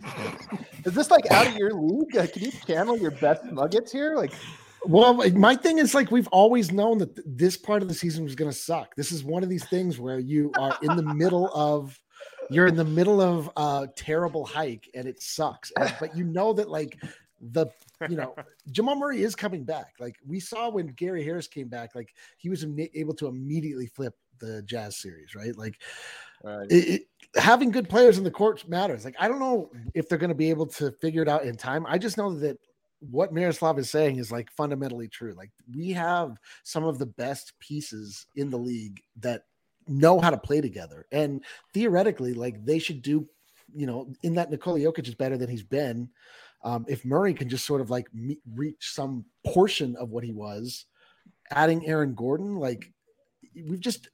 is this like out of your league? Like, can you channel your best nuggets here? Like, well, my thing is like we've always known that th- this part of the season was going to suck. This is one of these things where you are in the middle of, you're in the middle of a terrible hike and it sucks. And, but you know that like the, you know, Jamal Murray is coming back. Like we saw when Gary Harris came back, like he was am- able to immediately flip the Jazz series, right? Like right. It, it, having good players in the court matters. Like I don't know if they're going to be able to figure it out in time. I just know that what Miroslav is saying is like fundamentally true. Like we have some of the best pieces in the league that know how to play together. And theoretically, like they should do, you know, in that Nikola Jokic is better than he's been. Um, if Murray can just sort of like me- reach some portion of what he was, adding Aaron Gordon, like we've just,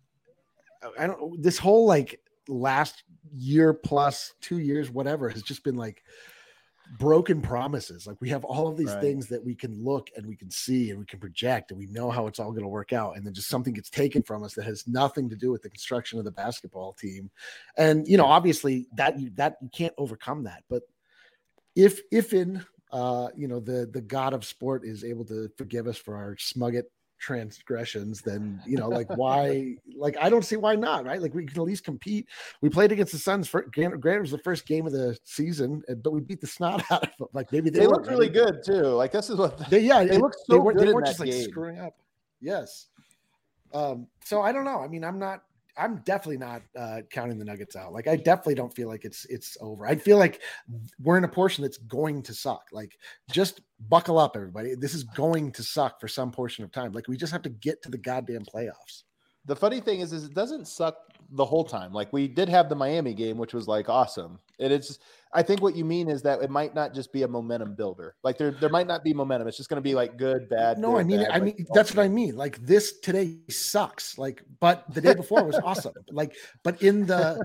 I don't, this whole like last year plus two years, whatever, has just been like broken promises. Like we have all of these right. things that we can look and we can see and we can project and we know how it's all going to work out. And then just something gets taken from us that has nothing to do with the construction of the basketball team. And, you know, obviously that you, that you can't overcome that, but if, if in, uh, you know, the, the God of sport is able to forgive us for our smugget transgressions, then, you know, like why, like, I don't see why not, right? Like we can at least compete. We played against the Suns for granted, it was the first game of the season, but we beat the snot out of them. Like maybe they, they were looked really good too. Like this is what they, yeah, they it, look so they were, good they weren't in just that like game. screwing up. Yes. Um, so I don't know. I mean, I'm not, I'm definitely not uh, counting the Nuggets out. Like, I definitely don't feel like it's it's over. I feel like we're in a portion that's going to suck. Like, just buckle up, everybody. This is going to suck for some portion of time. Like, we just have to get to the goddamn playoffs. The funny thing is, is it doesn't suck the whole time. Like we did have the Miami game, which was like awesome. And it's, I think what you mean is that it might not just be a momentum builder. Like there, there might not be momentum. It's just going to be like good, bad. No, good, I mean, bad, I like, mean, that's what I mean. Like this today sucks. Like, but the day before was awesome. Like, but in the,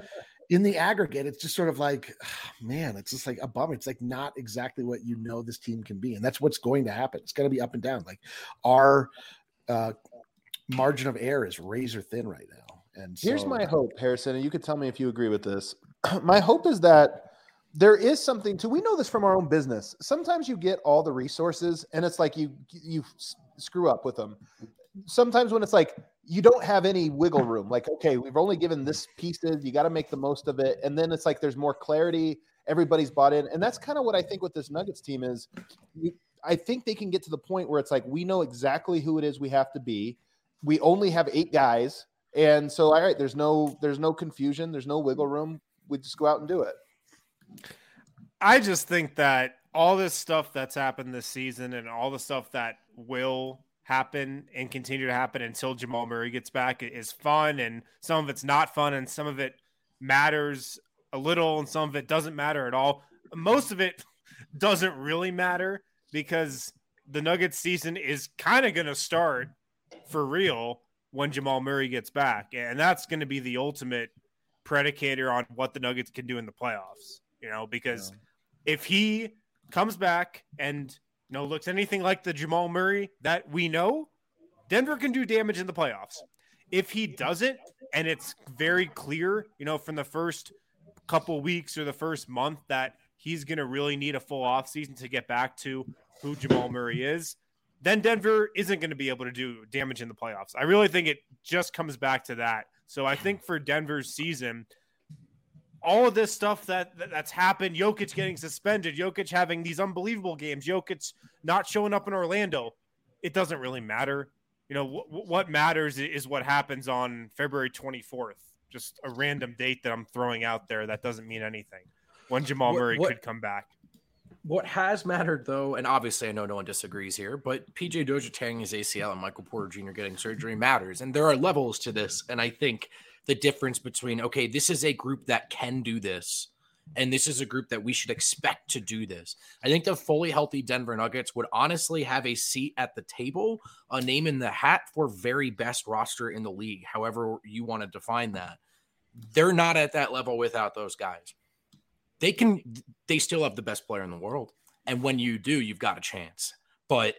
in the aggregate, it's just sort of like, man, it's just like a bummer. It's like not exactly what you know this team can be. And that's what's going to happen. It's going to be up and down. Like our uh, margin of error is razor thin right now. And so, here's my hope, Harrison, and you could tell me if you agree with this. My hope is that there is something to, we know this from our own business. Sometimes you get all the resources and it's like you, you screw up with them. Sometimes when it's like, you don't have any wiggle room, like, okay, we've only given this pieces, you got to make the most of it. And then it's like, there's more clarity. Everybody's bought in. And that's kind of what I think with this Nuggets team is you, I think they can get to the point where it's like, we know exactly who it is we have to be. We only have eight guys. And so, all right, there's no, there's no confusion. There's no wiggle room. We just go out and do it. I just think that all this stuff that's happened this season and all the stuff that will happen and continue to happen until Jamal Murray gets back is fun, and some of it's not fun, and some of it matters a little and some of it doesn't matter at all. Most of it doesn't really matter because the Nuggets season is kind of going to start for real when Jamal Murray gets back, and that's going to be the ultimate predicator on what the Nuggets can do in the playoffs, you know, because yeah. if he comes back and you know, looks anything like the Jamal Murray that we know, Denver can do damage in the playoffs. If he doesn't, and it's very clear, you know, from the first couple weeks or the first month that he's going to really need a full offseason to get back to who Jamal Murray is, then Denver isn't going to be able to do damage in the playoffs. I really think it just comes back to that. So I think for Denver's season, all of this stuff that, that that's happened, Jokic getting suspended, Jokic having these unbelievable games, Jokic not showing up in Orlando, it doesn't really matter. You know, w- what matters is what happens on February twenty-fourth. Just a random date that I'm throwing out there that doesn't mean anything. When Jamal what, Murray what, could come back. What has mattered, though, and obviously I know no one disagrees here, but P J Dozier tearing his A C L and Michael Porter Junior getting surgery matters. And there are levels to this. And I think the difference between, okay, this is a group that can do this, and this is a group that we should expect to do this. I think the fully healthy Denver Nuggets would honestly have a seat at the table, a name in the hat for very best roster in the league, however you want to define that. They're not at that level without those guys. They can, they still have the best player in the world. And when you do, you've got a chance. But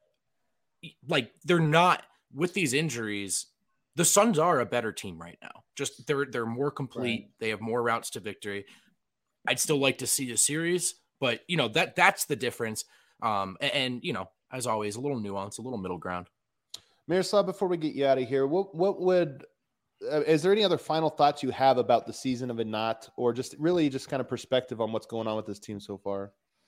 like, they're not, with these injuries, the Suns are a better team right now. Just they're they're more complete. Right. They have more routes to victory. I'd still like to see a series, but you know that that's the difference. Um, and, and you know, as always, a little nuance, a little middle ground. Miroslav, before we get you out of here, what what would uh, is there any other final thoughts you have about the season of a knot, or just really just kind of perspective on what's going on with this team so far?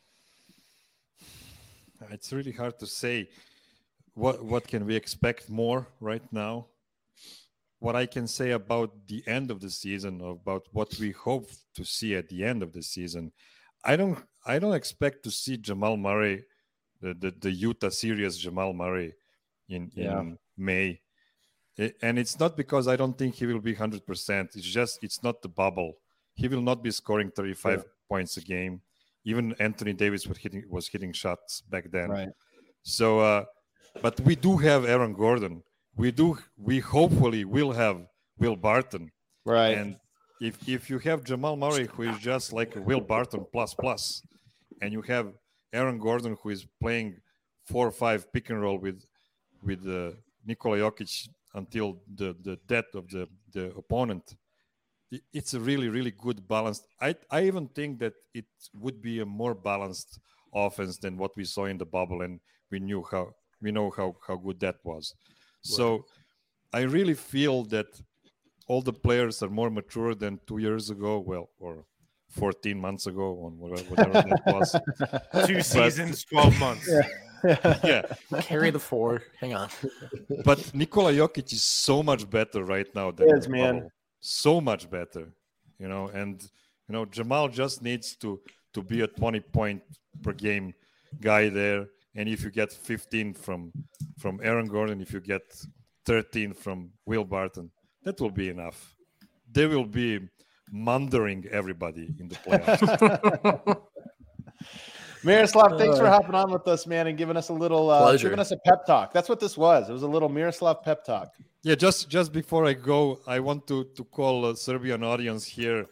It's really hard to say. What what can we expect more right now? What I can say about the end of the season, about what we hope to see at the end of the season, I don't I don't expect to see Jamal Murray, the the, the Utah series Jamal Murray in, yeah. in May. It, and it's not because I don't think he will be one hundred percent. It's just it's not the bubble. He will not be scoring thirty-five yeah. points a game. Even Anthony Davis was hitting, was hitting shots back then. Right. So, uh, but we do have Aaron Gordon. We do. We hopefully will have Will Barton, right? And if if you have Jamal Murray, who is just like a Will Barton plus plus, and you have Aaron Gordon, who is playing four or five pick and roll with with uh, Nikola Jokic until the, the death of the, the opponent, it, it's a really really good balance. I I even think that it would be a more balanced offense than what we saw in the bubble, and we knew how we know how how good that was. So I really feel that all the players are more mature than two years ago, well, or fourteen months ago, or whatever that was. Two seasons, but, twelve months. Yeah. yeah. Carry the four. Hang on. But Nikola Jokic is so much better right now than yes, man. Bubble. So much better, you know, and, you know, Jamal just needs to, to be a twenty point per game guy there. And if you get fifteen from from Aaron Gordon, if you get thirteen from Will Barton, that will be enough. They will be mundering everybody in the playoffs. Miroslav, thanks for hopping on with us, man, and giving us a little, uh, giving us a pep talk. That's what this was. It was a little Miroslav pep talk. Yeah, just just before I go, I want to to call a Serbian audience here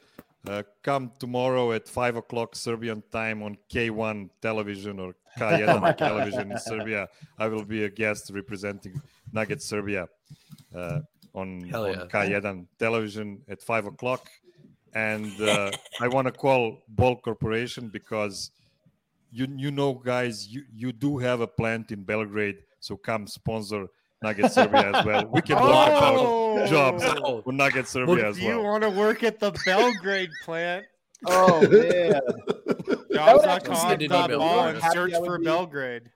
Uh, come tomorrow at five o'clock Serbian time on K one television or K one television in Serbia. I will be a guest representing Nugget Serbia uh, on, Hell yeah. on K one television at five o'clock. And uh, I want to call Ball Corporation because you you know, guys, you, you do have a plant in Belgrade, so come sponsor Nugget Serbia as well. We can talk Oh! about jobs Oh. for Nugget Serbia as Do you well. want to work at the Belgrade plant? Oh man, Jobs would dot actually com send an dot email ball for and us. search That would for be- Belgrade.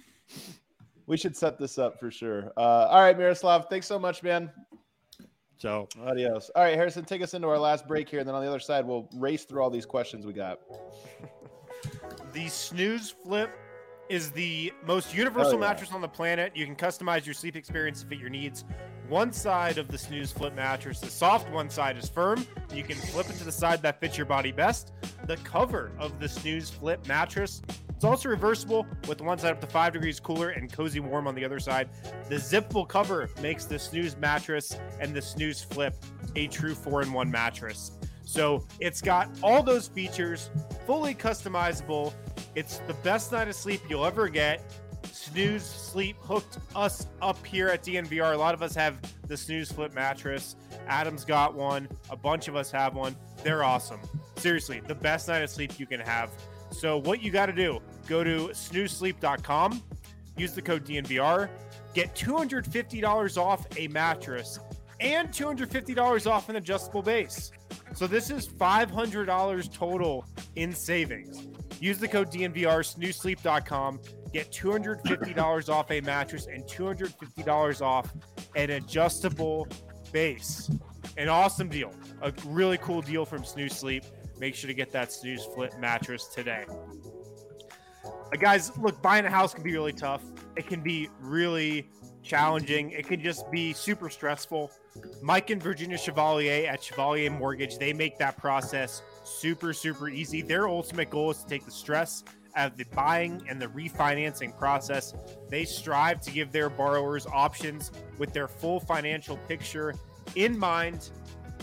we should set this up for sure. Uh, all right, Miroslav, thanks so much, man. Ciao. Adios. All right, Harrison, take us into our last break here, and then on the other side, we'll race through all these questions we got. The Snooze Flip is the most universal Oh, yeah. mattress on the planet. You can customize your sleep experience to fit your needs. One side of the Snooze Flip mattress is soft, one side is firm. You can flip it to the side that fits your body best. The cover of the Snooze Flip mattress, it's also reversible with one side up to five degrees cooler and cozy warm on the other side. The zippable cover makes the Snooze mattress and the Snooze Flip a true four in one mattress. So it's got all those features, fully customizable. It's the best night of sleep you'll ever get. Snooze Sleep hooked us up here at D N V R. A lot of us have the Snooze Flip mattress. Adam's got one. A bunch of us have one. They're awesome. Seriously, the best night of sleep you can have. So what you got to do, go to snooze sleep dot com, use the code D N V R, get two hundred fifty dollars off a mattress and two hundred fifty dollars off an adjustable base. So this is five hundred dollars total in savings. Use the code D N V R, snooze sleep dot com, get two hundred fifty dollars off a mattress and two hundred fifty dollars off an adjustable base. An awesome deal. A really cool deal from Snooze Sleep. Make sure to get that Snooze Flip mattress today. Uh, guys, look, buying a house can be really tough. It can be really challenging. It can just be super stressful. Mike and Virginia Chevalier at Chevalier Mortgage, they make that process super, super easy. Their ultimate goal is to take the stress out of the buying and the refinancing process. They strive to give their borrowers options with their full financial picture in mind.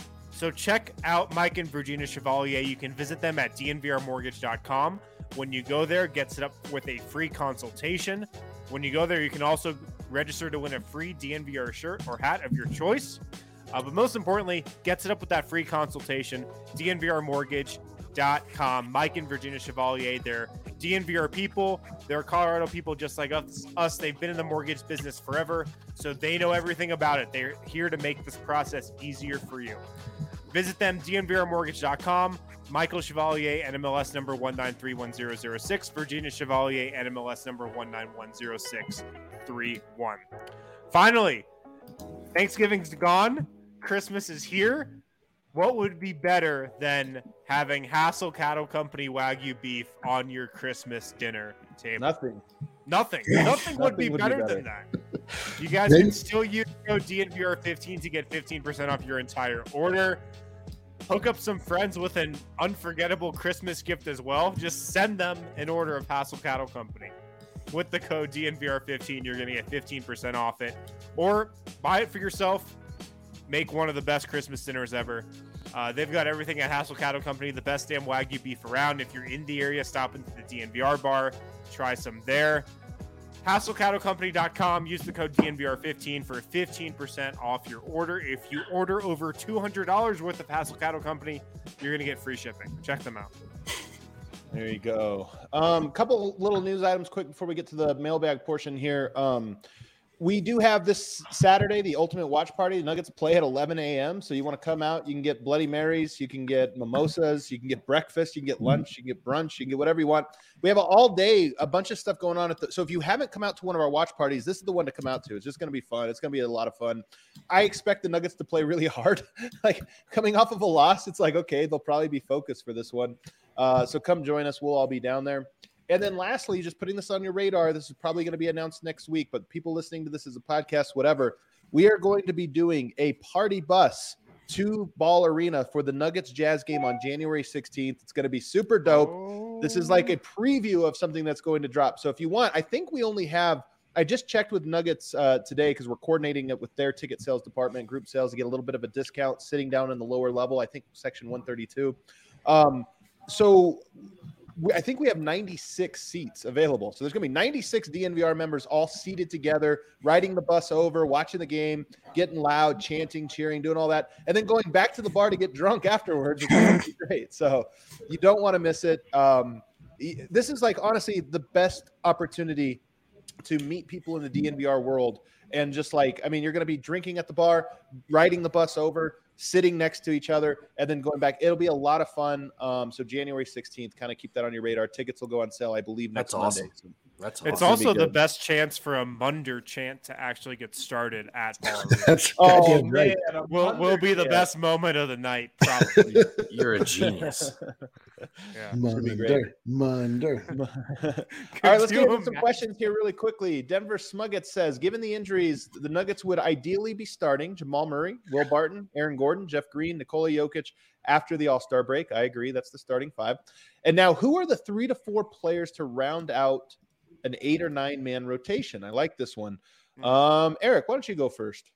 So check out Mike and Virginia Chevalier. You can visit them at d n v r mortgage dot com. When you go there, get set up with a free consultation. When you go there, you can also register to win a free D N V R shirt or hat of your choice. Uh, but most importantly, get set up with that free consultation, d n v r mortgage dot com. Mike and Virginia Chevalier, they're D N V R people. They're Colorado people just like us. us. They've been in the mortgage business forever, so they know everything about it. They're here to make this process easier for you. Visit them, d n v r mortgage dot com. Michael Chevalier, N M L S number one nine three one zero zero six. Virginia Chevalier, N M L S number one nine one zero six three one. Finally, Thanksgiving's gone. Christmas is here. What would be better than having Hassel Cattle Company Wagyu beef on your Christmas dinner table? Nothing. Nothing. Nothing would Nothing be would be better better. than that. You guys Then- can still use code D N V R fifteen to get fifteen percent off your entire order. Hook up some friends with an unforgettable Christmas gift as well. Just send them an order of Hassel Cattle Company. With the code D N V R fifteen, you're going to get fifteen percent off it. Or buy it for yourself. Make one of the best Christmas dinners ever. Uh, they've got everything at Hassel Cattle Company, the best damn Wagyu beef around. If you're in the area, stop into the D N V R bar. Try some there. hassel cattle company dot com. Use the code D N V R fifteen for fifteen percent off your order. If you order over two hundred dollars worth of Hassel Cattle Company, you're going to get free shipping. Check them out. There you go. Um, couple little news items quick before we get to the mailbag portion here. Um, we do have this Saturday, the Ultimate Watch Party. The Nuggets play at eleven a.m. So you want to come out, you can get Bloody Marys, you can get mimosas, you can get breakfast, you can get lunch, you can get brunch, you can get whatever you want. We have all day, a bunch of stuff going on. At the, so if you haven't come out to one of our watch parties, this is the one to come out to. It's just going to be fun. It's going to be a lot of fun. I expect the Nuggets to play really hard. Like coming off of a loss, it's like, okay, they'll probably be focused for this one. Uh, so come join us. We'll all be down there. And then lastly, just putting this on your radar, this is probably going to be announced next week, but people listening to this as a podcast, whatever, we are going to be doing a party bus to Ball Arena for the Nuggets Jazz game on January sixteenth. It's going to be super dope. This is like a preview of something that's going to drop. So if you want, I think we only have, I just checked with Nuggets uh, today because we're coordinating it with their ticket sales department, group sales, to get a little bit of a discount sitting down in the lower level. I think section one thirty-two. Um, so we, I think we have ninety-six seats available. So there's going to be ninety-six D N V R members all seated together, riding the bus over, watching the game, getting loud, chanting, cheering, doing all that, and then going back to the bar to get drunk afterwards. Which is be great. So you don't want to miss it. Um, this is like, honestly, the best opportunity to meet people in the D N V R world. And just like, I mean, you're going to be drinking at the bar, riding the bus over, sitting next to each other, and then going back. It'll be a lot of fun. Um, so January sixteenth, kind of keep that on your radar. Tickets will go on sale, I believe, next That's awesome. Monday. So That's It's awesome. also the good. best chance for a Munder chant to actually get started at Ball Arena. That's Oh, goddamn man. right. a will will be the Munder best moment of the night, probably. You're a genius. Yeah. be great. Munder, Munder. All right, let's Could get you into some imagine? questions here really quickly. Denver Smuggets says, given the injuries, the Nuggets would ideally be starting Jamal Murray, Will Barton, Aaron Gordon, Jeff Green, Nikola Jokic after the All-Star break. I agree. That's the starting five. And now, who are the three to four players to round out an eight or nine man rotation? I like this one. Um, Eric, why don't you go first?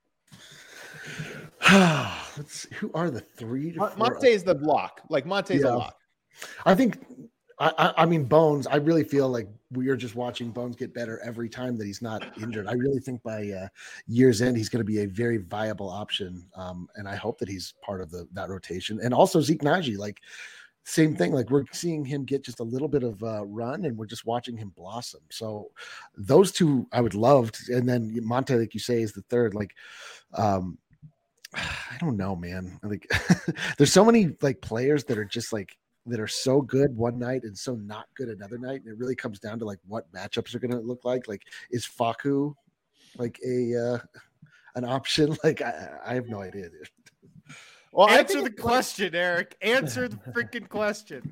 Let's see, who are the three to Mon- four? Monte's the lock. Like Monte's Yeah. a lock. I think, I, I, I mean, Bones, I really feel like we are just watching Bones get better every time that he's not injured. I really think by uh, year's end, he's going to be a very viable option. Um, and I hope that he's part of the that rotation. And also Zeke Naji, like, same thing. Like, we're seeing him get just a little bit of uh, run, and we're just watching him blossom. So those two I would love to, and then Monte, like you say, is the third. Like, um, I don't know, man. Like, there's so many like players that are just like that are so good one night and so not good another night, and it really comes down to like what matchups are going to look like. Like, is Faku like a uh, an option? Like, I, I have no idea, dude. Well, I Answer think the it's- question, Eric. Answer the freaking question.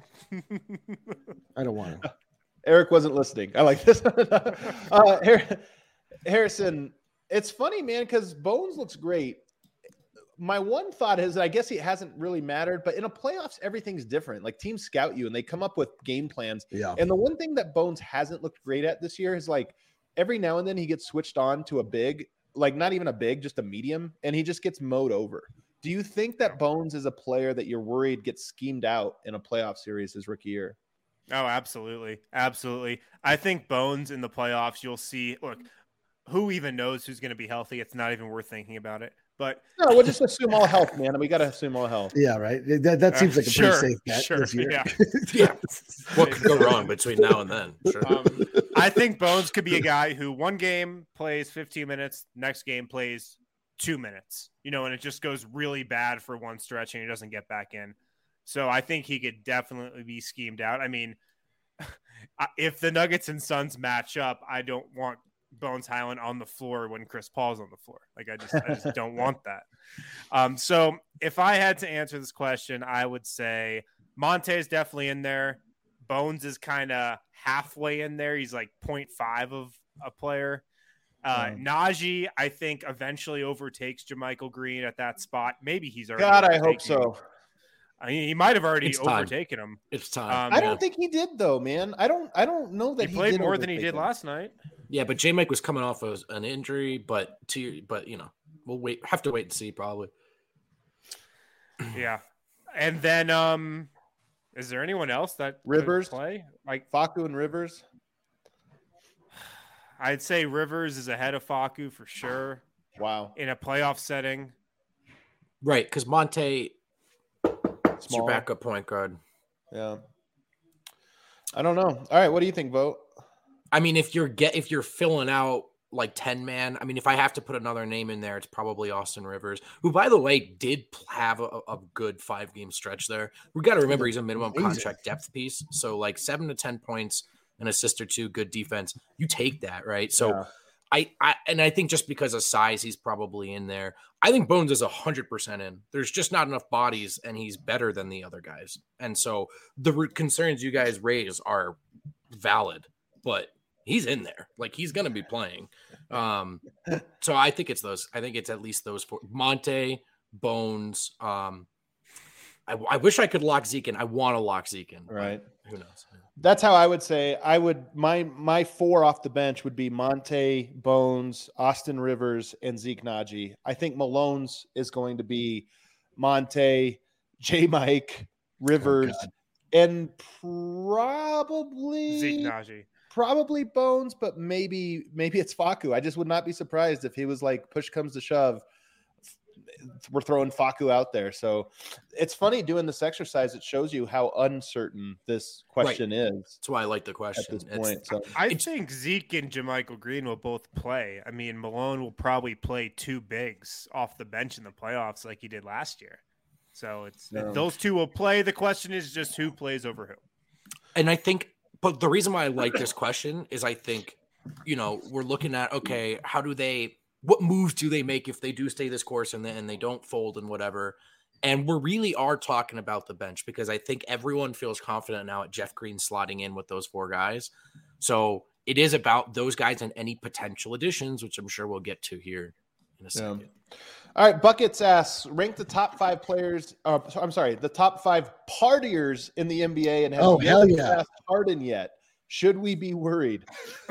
I don't want to. Eric wasn't listening. I like this. uh, Har- Harrison, it's funny, man, because Bones looks great. My one thought is that I guess it hasn't really mattered, but in a playoffs, everything's different. Like, teams scout you and they come up with game plans. Yeah. And the one thing that Bones hasn't looked great at this year is like every now and then he gets switched on to a big, like not even a big, just a medium, and he just gets mowed over. Do you think that Bones is a player that you're worried gets schemed out in a playoff series his rookie year? Oh, absolutely. Absolutely. I think Bones in the playoffs, you'll see. Look, who even knows who's going to be healthy? It's not even worth thinking about it. But No, we'll just assume all health, man. And we got to assume all health. Yeah, right. That, that seems like a sure, pretty safe bet sure, this year. yeah. Yeah. What could go wrong between now and then? Sure. Um, I think Bones could be a guy who one game plays fifteen minutes, next game plays two minutes, you know, and it just goes really bad for one stretch and he doesn't get back in. So I think he could definitely be schemed out. I mean, if the Nuggets and Suns match up, I don't want Bones Highland on the floor when Chris Paul's on the floor. Like, I just, I just don't want that. Um, so if I had to answer this question, I would say Monte is definitely in there. Bones is kind of halfway in there. He's like zero point five of a player. Uh, Um, Najee, I think, eventually overtakes JaMychal Green at that spot. Maybe he's already. God, I hope overtaken him. so. I mean, he might have already It's time. overtaken him. It's time. Um, I yeah. don't think he did, though, man. I don't. I don't know that He he, played did more than he overtake did him. last night. Yeah, but J Mike was coming off of an injury, but to but you know, we'll wait have to wait and see probably. Yeah, and then um, is there anyone else that could Rivers? play? Like, Faku and Rivers. I'd say Rivers is ahead of Faku for sure Wow, in a playoff setting. Right, because Monte is your small. backup point guard. Yeah. I don't know. All right, what do you think, Vote? I mean, if you're get if you're filling out like ten man, I mean, if I have to put another name in there, it's probably Austin Rivers, who, by the way, did have a, a good five game stretch there. We got to remember he's a minimum Amazing. contract depth piece, so like seven to ten points, an assist or two, good defense. You take that, right? So. Yeah. I, I and I think just because of size, he's probably in there. I think Bones is a hundred percent in. There's just not enough bodies, and he's better than the other guys. And so the re- concerns you guys raise are valid, but he's in there. Like, he's going to be playing. Um, so I think it's those. I think it's at least those four: Monte, Bones, um, I, I wish I could lock Zeke in. I want to lock Zeke in. Right. Who knows? That's how I would say I would my my four off the bench would be Monte, Bones, Austin Rivers, and Zeke Naji. I think Malone's is going to be Monte, J Mike, Rivers, Oh, and probably Zeke Naji. probably Bones, but maybe maybe it's Facu. I just would not be surprised if he was like push comes to shove. We're throwing Facu out there. So it's funny doing this exercise. It shows you how uncertain this question Right. is That's why I like the question. at this It's- point. So I It's- think Zeke and Jermichael Green will both play. I mean, Malone will probably play two bigs off the bench in the playoffs like he did last year. So it's Yeah. those two will play. The question is just who plays over who. And I think, but the reason why I like this question is I think, you know, we're looking at, okay, how do they, what moves do they make if they do stay this course and then and they don't fold and whatever. And we really are talking about the bench because I think everyone feels confident now at Jeff Green slotting in with those four guys. So it is about those guys and any potential additions, which I'm sure we'll get to here in a second. all right, Buckets asks, rank the top five players. Uh, I'm sorry, the top five partiers in the N B A, and have Oh, you hell ever yeah. passed Harden yet? Should we be worried?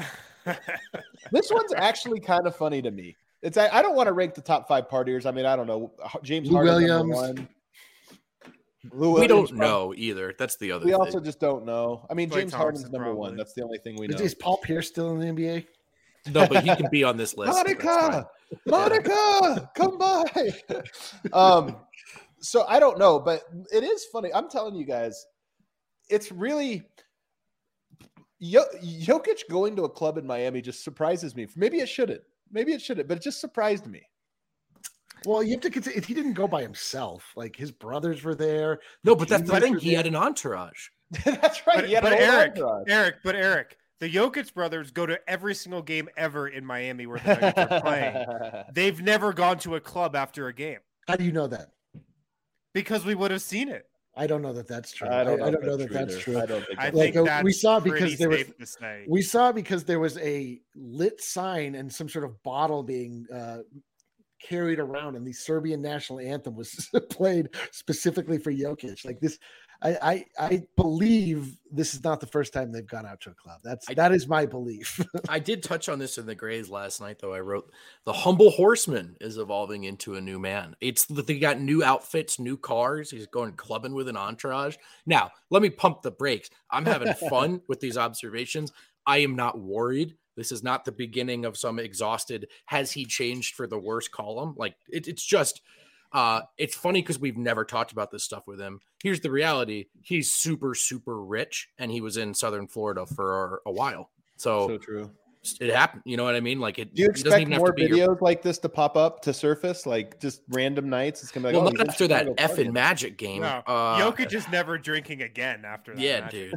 This one's actually kind of funny to me. It's I I don't want to rank the top five partiers. I mean, I don't know. James Lou Harden, Williams. one. Lou We Williams, don't know either. That's the other We thing. also just don't know. I mean, Klay James Harden's Thompson, number one. probably. That's the only thing we know. Is, is Paul Pierce still in the N B A? No, but he can be on this list. That's fine. Monica, Monica, come by. um, so I don't know, but it is funny. I'm telling you guys, it's really Yo- Jokic going to a club in Miami just surprises me. Maybe it shouldn't. Maybe it shouldn't, but it just surprised me. Well, you have to consider he didn't go by himself. Like his brothers were there. No, but that's the Juniors thing. were He there. had an entourage. That's right. But, He had but an whole Eric, entourage. Eric, but Eric, the Jokic brothers go to every single game ever in Miami where the Nuggets are playing. They've never gone to a club after a game How do you know that? because we would have seen it. I don't know that that's true. I don't know, I if don't know that either. that's true. I don't think I that's Like, think uh, that's we saw pretty because there was- safe to say. We saw because there was a lit sign and some sort of bottle being uh, carried around, and the Serbian national anthem was played specifically for Jokic. Like this, I, I I believe this is not the first time they've gone out to a club. That's I- that is my belief. I did touch on this in the Grays last night, though. I wrote the humble horseman is evolving into a new man. It's that they got new outfits, new cars. He's going clubbing with an entourage. Now, let me pump the brakes. I'm having fun with these observations. I am not worried. This is not the beginning of some exhausted, has he changed for the worse column? Like, it, it's just, uh, it's funny because we've never talked about this stuff with him. Here's the reality. He's super, super rich, and he was in Southern Florida for a while. So, so true. it happened. You know what I mean? Like, it, Do you it doesn't expect even have more to be videos your, like this to pop up to surface, like just random nights? It's gonna be like, well, oh, not he's in after that Chicago effing partying. Magic game. No, uh, Jokic is never drinking again after that. yeah, match. dude.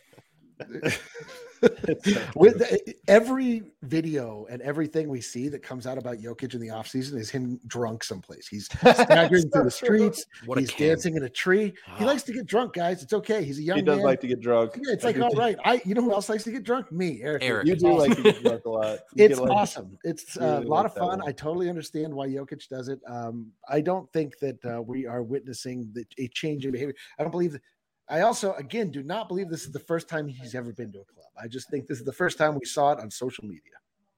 With the- every video and everything we see that comes out about Jokic in the offseason is him drunk someplace. He's staggering through the So true. streets. What a He's king. dancing in a tree. He Ah. likes to get drunk, guys. It's okay. He's a young He does man. like to get drunk. Yeah, it's like, all right. I, you know who else likes to get drunk? Me, Eric. Eric. You do like to get drunk a lot. You It's get, like- awesome. It's you uh, a really lot like of that fun. one. I totally understand why Jokic does it. Um, I don't think that uh, we are witnessing the, a change in behavior. I don't believe that. I also, again, do not believe this is the first time he's ever been to a club. I just think this is the first time we saw it on social media.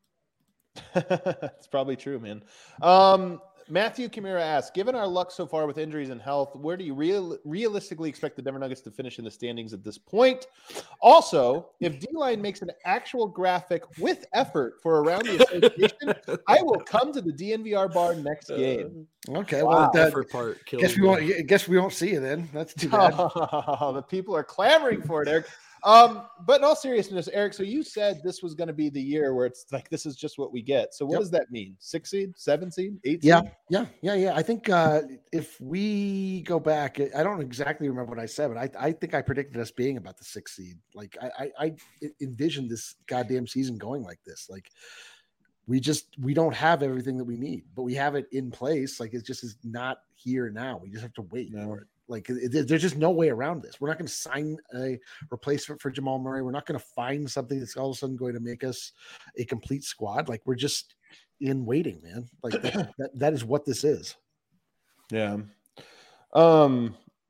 It's probably true, man. Um, Matthew Kimura asks, given our luck so far with injuries and health, where do you real, realistically expect the Denver Nuggets to finish in the standings at this point? Also, if D-Line makes an actual graphic with effort for around the association, I will come to the D N V R bar next game. Okay, Wow. well, that, Effort part kills guess we me. won't. Guess we won't see you then. That's too bad. The people are clamoring for it, Eric. Um, but in all seriousness, Eric, so you said this was going to be the year where it's like this is just what we get. So what Yep. does that mean? Six seed, seven seed, eight Yeah, seed? yeah, yeah, yeah. I think uh, if we go back, I don't exactly remember what I said, but I, I think I predicted us being about the sixth seed. Like I, I, I envisioned this goddamn season going like this. Like we just we don't have everything that we need, but we have it in place. Like it just is not here now. We just have to wait No. for it. Like it, there's just no way around this. We're not going to sign a replacement for Jamal Murray. We're not going to find something that's all of a sudden going to make us a complete squad. Like we're just in waiting, man. Like that, that, that is what this is. Yeah. Um,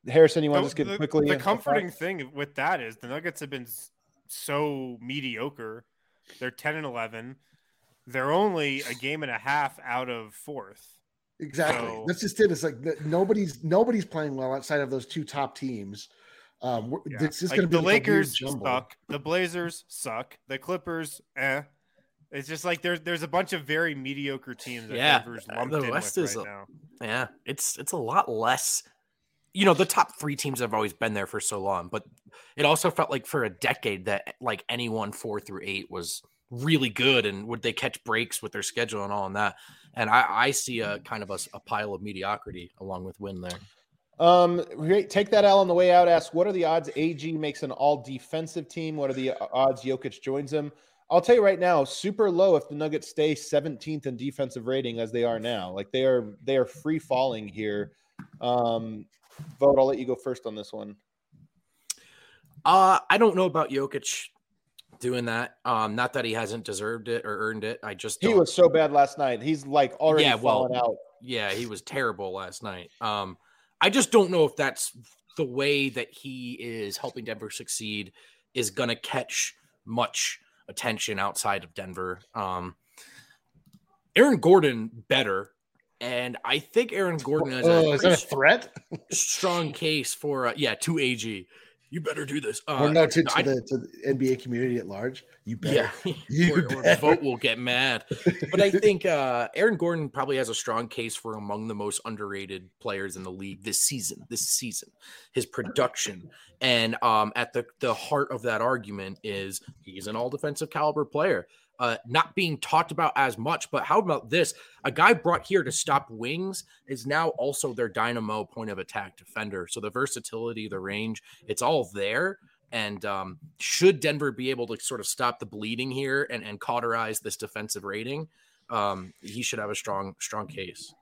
Harrison, you want The, to just get the- quickly? the in- comforting thing with that is the Nuggets have been s- so mediocre. They're ten and eleven. They're only a game and a half out of fourth. Exactly. So- That's just it. It's like the- nobody's nobody's playing well outside of those two top teams. Um, we're- Yeah. It's just Like, going to be the like a weird Lakers jumble. suck. The Blazers suck. The Clippers, eh. It's just like there's there's a bunch of very mediocre teams that Yeah, Denver's uh, lumped the in West with is right a- now. Yeah, it's it's a lot less. You know, the top three teams have always been there for so long, but it also felt like for a decade that like anyone four through eight was really good, and would they catch breaks with their schedule and all in that. And I, I see a kind of a, a pile of mediocrity along with Win there. Um, great. Take that L on the way out. Ask, what are the odds A G makes an all defensive team? What are the odds Jokic joins him? I'll tell you right now, super low if the Nuggets stay seventeenth in defensive rating as they are now. Like they are, they are free falling here. Um, Vote, I'll let you go first on this one. Uh, I don't know about Jokic doing that. Um, not that he hasn't deserved it or earned it. I just He don't- was so bad last night. He's like already Yeah, well, fallen out. Yeah, he was terrible last night. Um, I just don't know if that's the way that he is helping Denver succeed is going to catch much attention outside of Denver. Um, Aaron Gordon better, and I think Aaron Gordon has Oh, a is that a threat? strong case for uh, yeah to A G. You better do this. Uh, or no, to, to, I- the, to the N B A community at large? You better. Yeah, You or, or better. Vote will get mad. But I think uh, Aaron Gordon probably has a strong case for among the most underrated players in the league this season. This season, his production, and um, at the the heart of that argument is he's an all defensive caliber player. Uh, not being talked about as much, but how about this? A guy brought here to stop wings is now also their dynamo point of attack defender. So the versatility, the range, it's all there. And um, should Denver be able to sort of stop the bleeding here and, and cauterize this defensive rating, um, he should have a strong, strong case.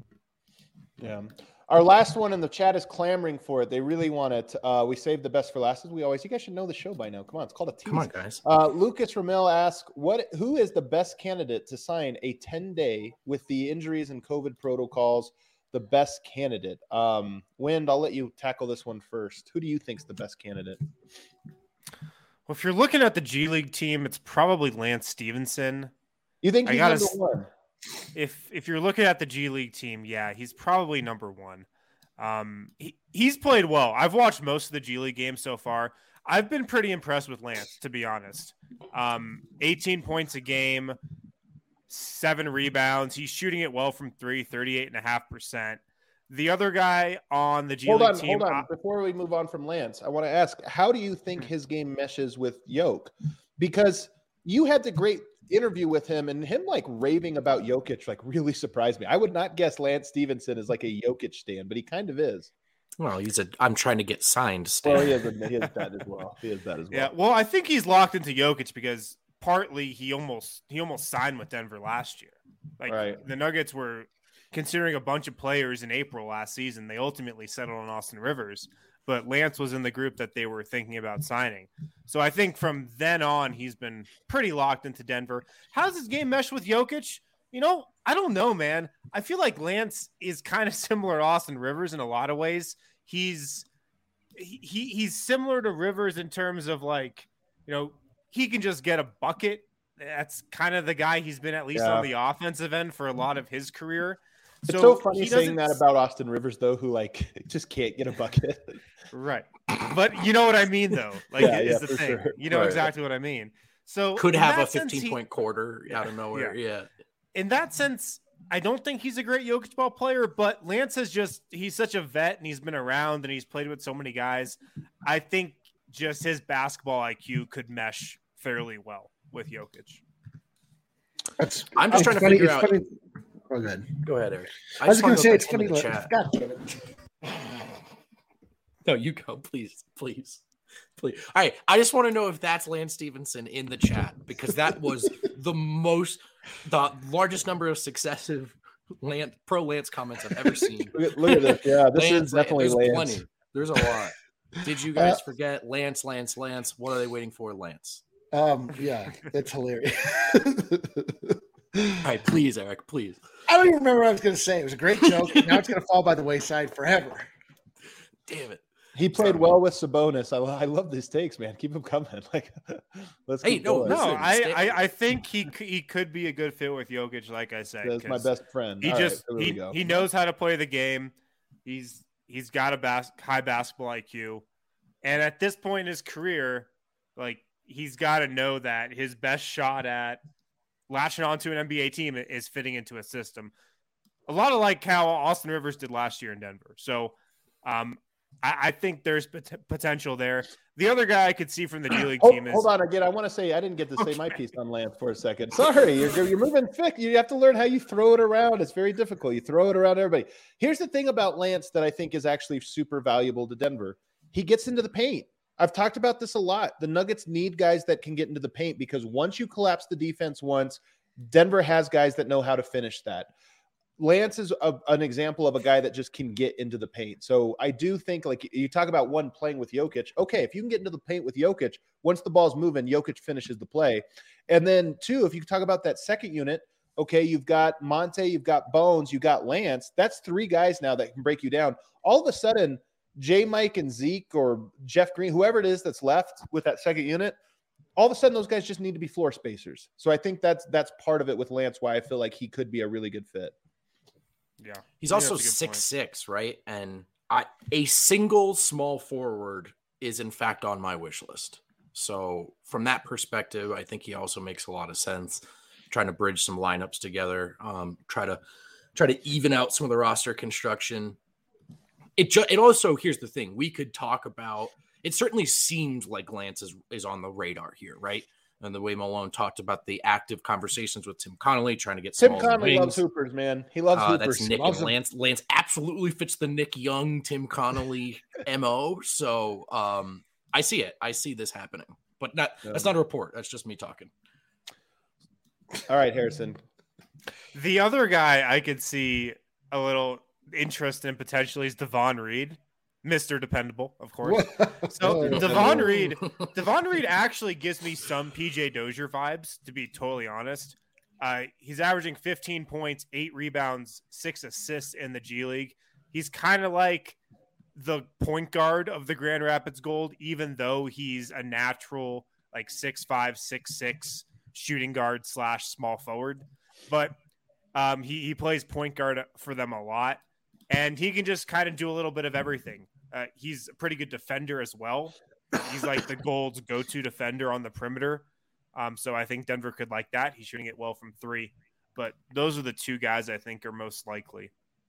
Yeah. Our last one in the chat is clamoring for it. They really want it. Uh, we saved the best for last, as we always. You guys should know the show by now. Come on, it's called a tease. Come on, guys. Uh, Lucas Ramil asks, "What? Who is the best candidate to sign a ten-day with the injuries and COVID protocols? The best candidate." Um, Wind, I'll let you tackle this one first. Who do you think's the best candidate? Well, if you're looking at the G League team, it's probably Lance Stevenson. You think I he's gotta number s- one? If if you're looking at the G League team, yeah, he's probably number one. Um, he, he's played well. I've watched most of the G League games so far. I've been pretty impressed with Lance, to be honest. Um, eighteen points a game, seven rebounds. He's shooting it well from three, thirty-eight point five percent. The other guy on the G Hold League on, team, hold on. I- Before we move on from Lance, I want to ask, how do you think his game meshes with Yoke? Because you had the great interview with him, and him like raving about Jokic like really surprised me. I would not guess Lance Stevenson is like a Jokic stan, but he kind of is. Well, he's a. I'm trying to get signed. Well, Stan. he is, a, he is that as well. He is that as well. yeah, well, I think he's locked into Jokic because partly he almost he almost signed with Denver last year. Like Right. the Nuggets were considering a bunch of players in April last season. They ultimately settled on Austin Rivers, but Lance was in the group that they were thinking about signing. So I think from then on, he's been pretty locked into Denver. How does his game mesh with Jokic? You know, I don't know, man. I feel like Lance is kind of similar to Austin Rivers in a lot of ways. He's he he's similar to Rivers in terms of like, you know, he can just get a bucket. That's kind of the guy he's been at least Yeah. on the offensive end for a lot of his career. It's so funny he saying doesn't- that about Austin Rivers, though, who like just can't get a bucket. Right. But you know what I mean, though. Like, Yeah, is yeah, the for thing. sure. You know Right. exactly what I mean. So Could in have a that sense, fifteen he- point quarter out of Yeah, nowhere. Yeah. in that sense, I don't think he's a great Jokic ball player, but Lance is just, he's such a vet and he's been around and he's played with so many guys. I think just his basketball I Q could mesh fairly well with Jokic. That's, I'm just it's trying to funny, figure it's out- funny. Oh, good. Go ahead, Eric. I was just going wanna to say know it's if that's funny. in the Like, chat. God damn it. No, you go, please, please, please. All right, I just want to know if that's Lance Stevenson in the chat because that was the most, the largest number of successive Lance pro Lance comments I've ever seen. Look at, look at this. Yeah, this Lance, is definitely there's Lance. plenty. There's a lot. Did you guys forget Lance, Lance, Lance? What are they waiting for, Lance? Um, yeah, it's hilarious. All right, please, Eric, please. I don't even remember what I was going to say. It was a great joke. Now it's going to fall by the wayside forever. damn it. He played Sorry. well with Sabonis. I, I love these takes, man. Keep them coming. Like, let's Hey, keep no, going. No, Listen, I, stay- I, I think he c- he could be a good fit with Jokic, like I said. That's my 'cause best friend. He All right, just here we he, go. he knows how to play the game. He's he's got a bas- high basketball I Q, and at this point in his career, like he's got to know that his best shot at latching onto an N B A team is fitting into a system. A lot of like how Austin Rivers did last year in Denver. So, um, I, I think there's pot- potential there. The other guy I could see from the G League Hold, team is hold on again. I want to say I didn't get to say Okay. my piece on Lance for a second. Sorry, you're you're moving thick. You have to learn how you throw it around. It's very difficult. You throw it around everybody. Here's the thing about Lance that I think is actually super valuable to Denver. He gets into the paint. I've talked about this a lot. The Nuggets need guys that can get into the paint because once you collapse the defense once, Denver has guys that know how to finish that. Lance is a, an example of a guy that just can get into the paint. So I do think, like you talk about one playing with Jokic. Okay, if you can get into the paint with Jokic, once the ball's moving, Jokic finishes the play. And then two, if you talk about that second unit, okay, you've got Monte, you've got Bones, you got Lance. That's three guys now that can break you down. All of a sudden, J. Mike and Zeke or Jeff Green, whoever it is that's left with that second unit, all of a sudden those guys just need to be floor spacers. So I think that's that's part of it with Lance, why I feel like he could be a really good fit. yeah. He's I think also that's a good six point. six, right? And I a single small forward is in fact on my wish list. So from that perspective, I think he also makes a lot of sense. Trying to bridge some lineups together, um, try to try to even out some of the roster construction. It ju- it also, here's the thing, we could talk about. It certainly seems like Lance is is on the radar here, right? And the way Malone talked about the active conversations with Tim Connolly, trying to get Tim Smalls Connolly and loves wings. hoopers, man. He loves Uh, hoopers. that's Nick Loves and them. Lance. Lance absolutely fits the Nick Young, Tim Connolly M O. So um, I see it. I see this happening. But not Yeah. that's not a report. That's just me talking. All right, Harrison. The other guy I could see a little interest in potentially is Devon Reed, Mister Dependable, of course. So Oh. Devon Reed, Devon Reed actually gives me some P J Dozier vibes, to be totally honest. Uh, he's averaging fifteen points, eight rebounds, six assists in the G League. He's kind of like the point guard of the Grand Rapids Gold, even though he's a natural like six five, six six shooting guard slash small forward. But um, he, he plays point guard for them a lot, and he can just kind of do a little bit of everything. Uh, he's a pretty good defender as well. He's like the Gold's go-to defender on the perimeter. Um, so I think Denver could like that. He's shooting it well from three. But those are the two guys I think are most likely.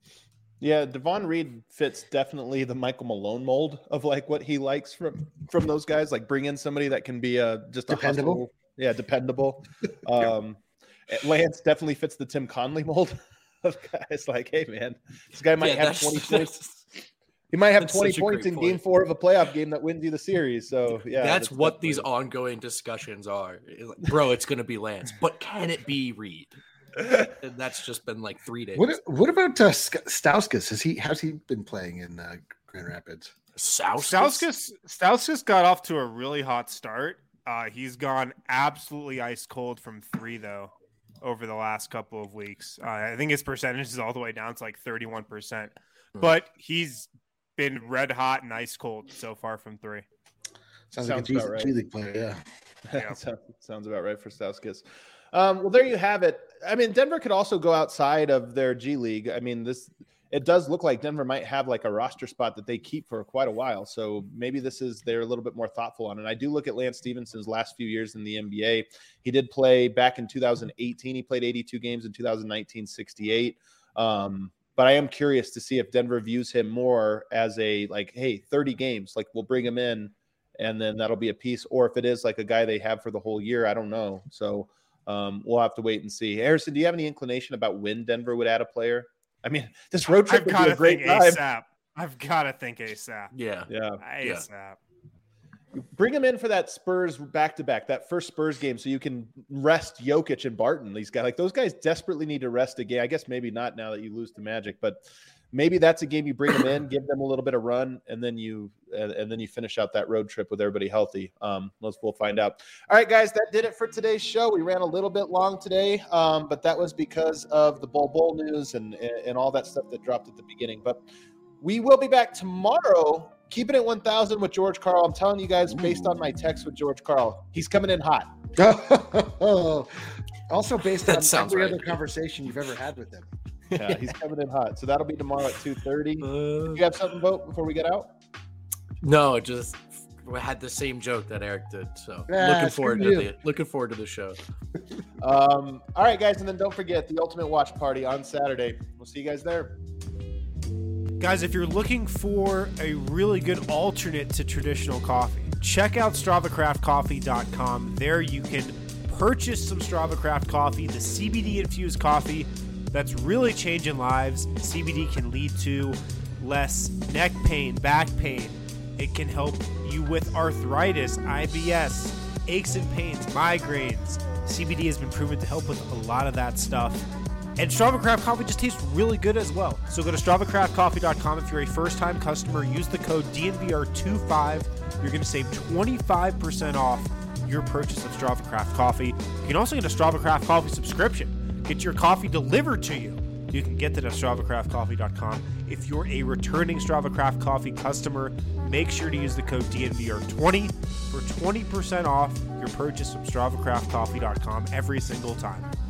Yeah, Devon Reed fits definitely the Michael Malone mold of like what he likes from from those guys. Like bring in somebody that can be a just a Dependable. hustle. Yeah, dependable. Um, Lance definitely fits the Tim Conley mold of guys. Like, hey man, this guy might Yeah, have that's- twenty that's- points. He might have that's twenty such a points great in point. Game Four of a playoff game that wins you the series. So yeah, that's what these definitely- ongoing discussions are. Like, bro, it's going to be Lance. But can it be Reed? And that's just been like three days. What what about uh, Sk- Stauskas? Has he how's he been playing in uh, Grand Rapids? South? Stauskas Stauskas got off to a really hot start. Uh, he's gone absolutely ice cold from three, though, over the last couple of weeks. Uh, I think his percentage is all the way down to like thirty-one percent. Hmm. But he's been red hot and ice cold so far from three. Sounds, Sounds like a G, about right. G League player. Yeah. Yeah. sounds, sounds about right for Stauskas. Um, well, there you have it. I mean, Denver could also go outside of their G League. I mean, this it does look like Denver might have like a roster spot that they keep for quite a while. So maybe this is they're a little bit more thoughtful on it. I do look at Lance Stevenson's last few years in the N B A. He did play back in two thousand eighteen. He played eighty-two games in two thousand nineteen, sixty-eight. Um, but I am curious to see if Denver views him more as a like, hey, thirty games, like we'll bring him in and then that'll be a piece, or if it is like a guy they have for the whole year. I don't know. So um, we'll have to wait and see. Harrison, do you have any inclination about when Denver would add a player? I mean, this road trip I've would got be to a great think time. ASAP. I've got to think ASAP. Yeah. Yeah. ASAP. Bring him in for that Spurs back-to-back, that first Spurs game, so you can rest Jokic and Barton. These guys, like those guys desperately need to rest a game. I guess maybe not now that you lose to Magic, but maybe that's a game you bring them in, give them a little bit of run, and then you and, and then you finish out that road trip with everybody healthy. Um, let's we'll find out. All right, guys, that did it for today's show. We ran a little bit long today, um, but that was because of the Bol Bol news and and all that stuff that dropped at the beginning. But we will be back tomorrow keep it at one thousand with George Karl. I'm telling you guys, based on my text with George Karl, he's coming in hot. Also based That on sounds every right. other conversation you've ever had with him. Yeah, he's coming in hot. So that'll be tomorrow at two thirty. Uh, You have something, Vote, before we get out? no, just we had the same joke that Eric did. So Yeah, looking forward screw to you. the looking forward to the show. Um, all right, guys, and then don't forget the Ultimate Watch Party on Saturday. We'll see you guys there. Guys, if you're looking for a really good alternate to traditional coffee, check out Strava Craft Coffee dot com. There you can purchase some Strava Craft coffee, the C B D infused coffee that's really changing lives. C B D can lead to less neck pain, back pain. It can help you with arthritis, I B S, aches and pains, migraines. C B D has been proven to help with a lot of that stuff. And Strava Craft Coffee just tastes really good as well. So go to Strava Craft Coffee dot com. If you're a first-time customer, use the code D N V R twenty-five. You're going to save twenty-five percent off your purchase of Strava Craft Coffee. You can also get a Strava Craft Coffee subscription. Get your coffee delivered to you. You can get that at Strava Craft Coffee dot com. If you're a returning Strava Craft Coffee customer, make sure to use the code D N V R twenty for twenty percent off your purchase from Strava Craft Coffee dot com every single time.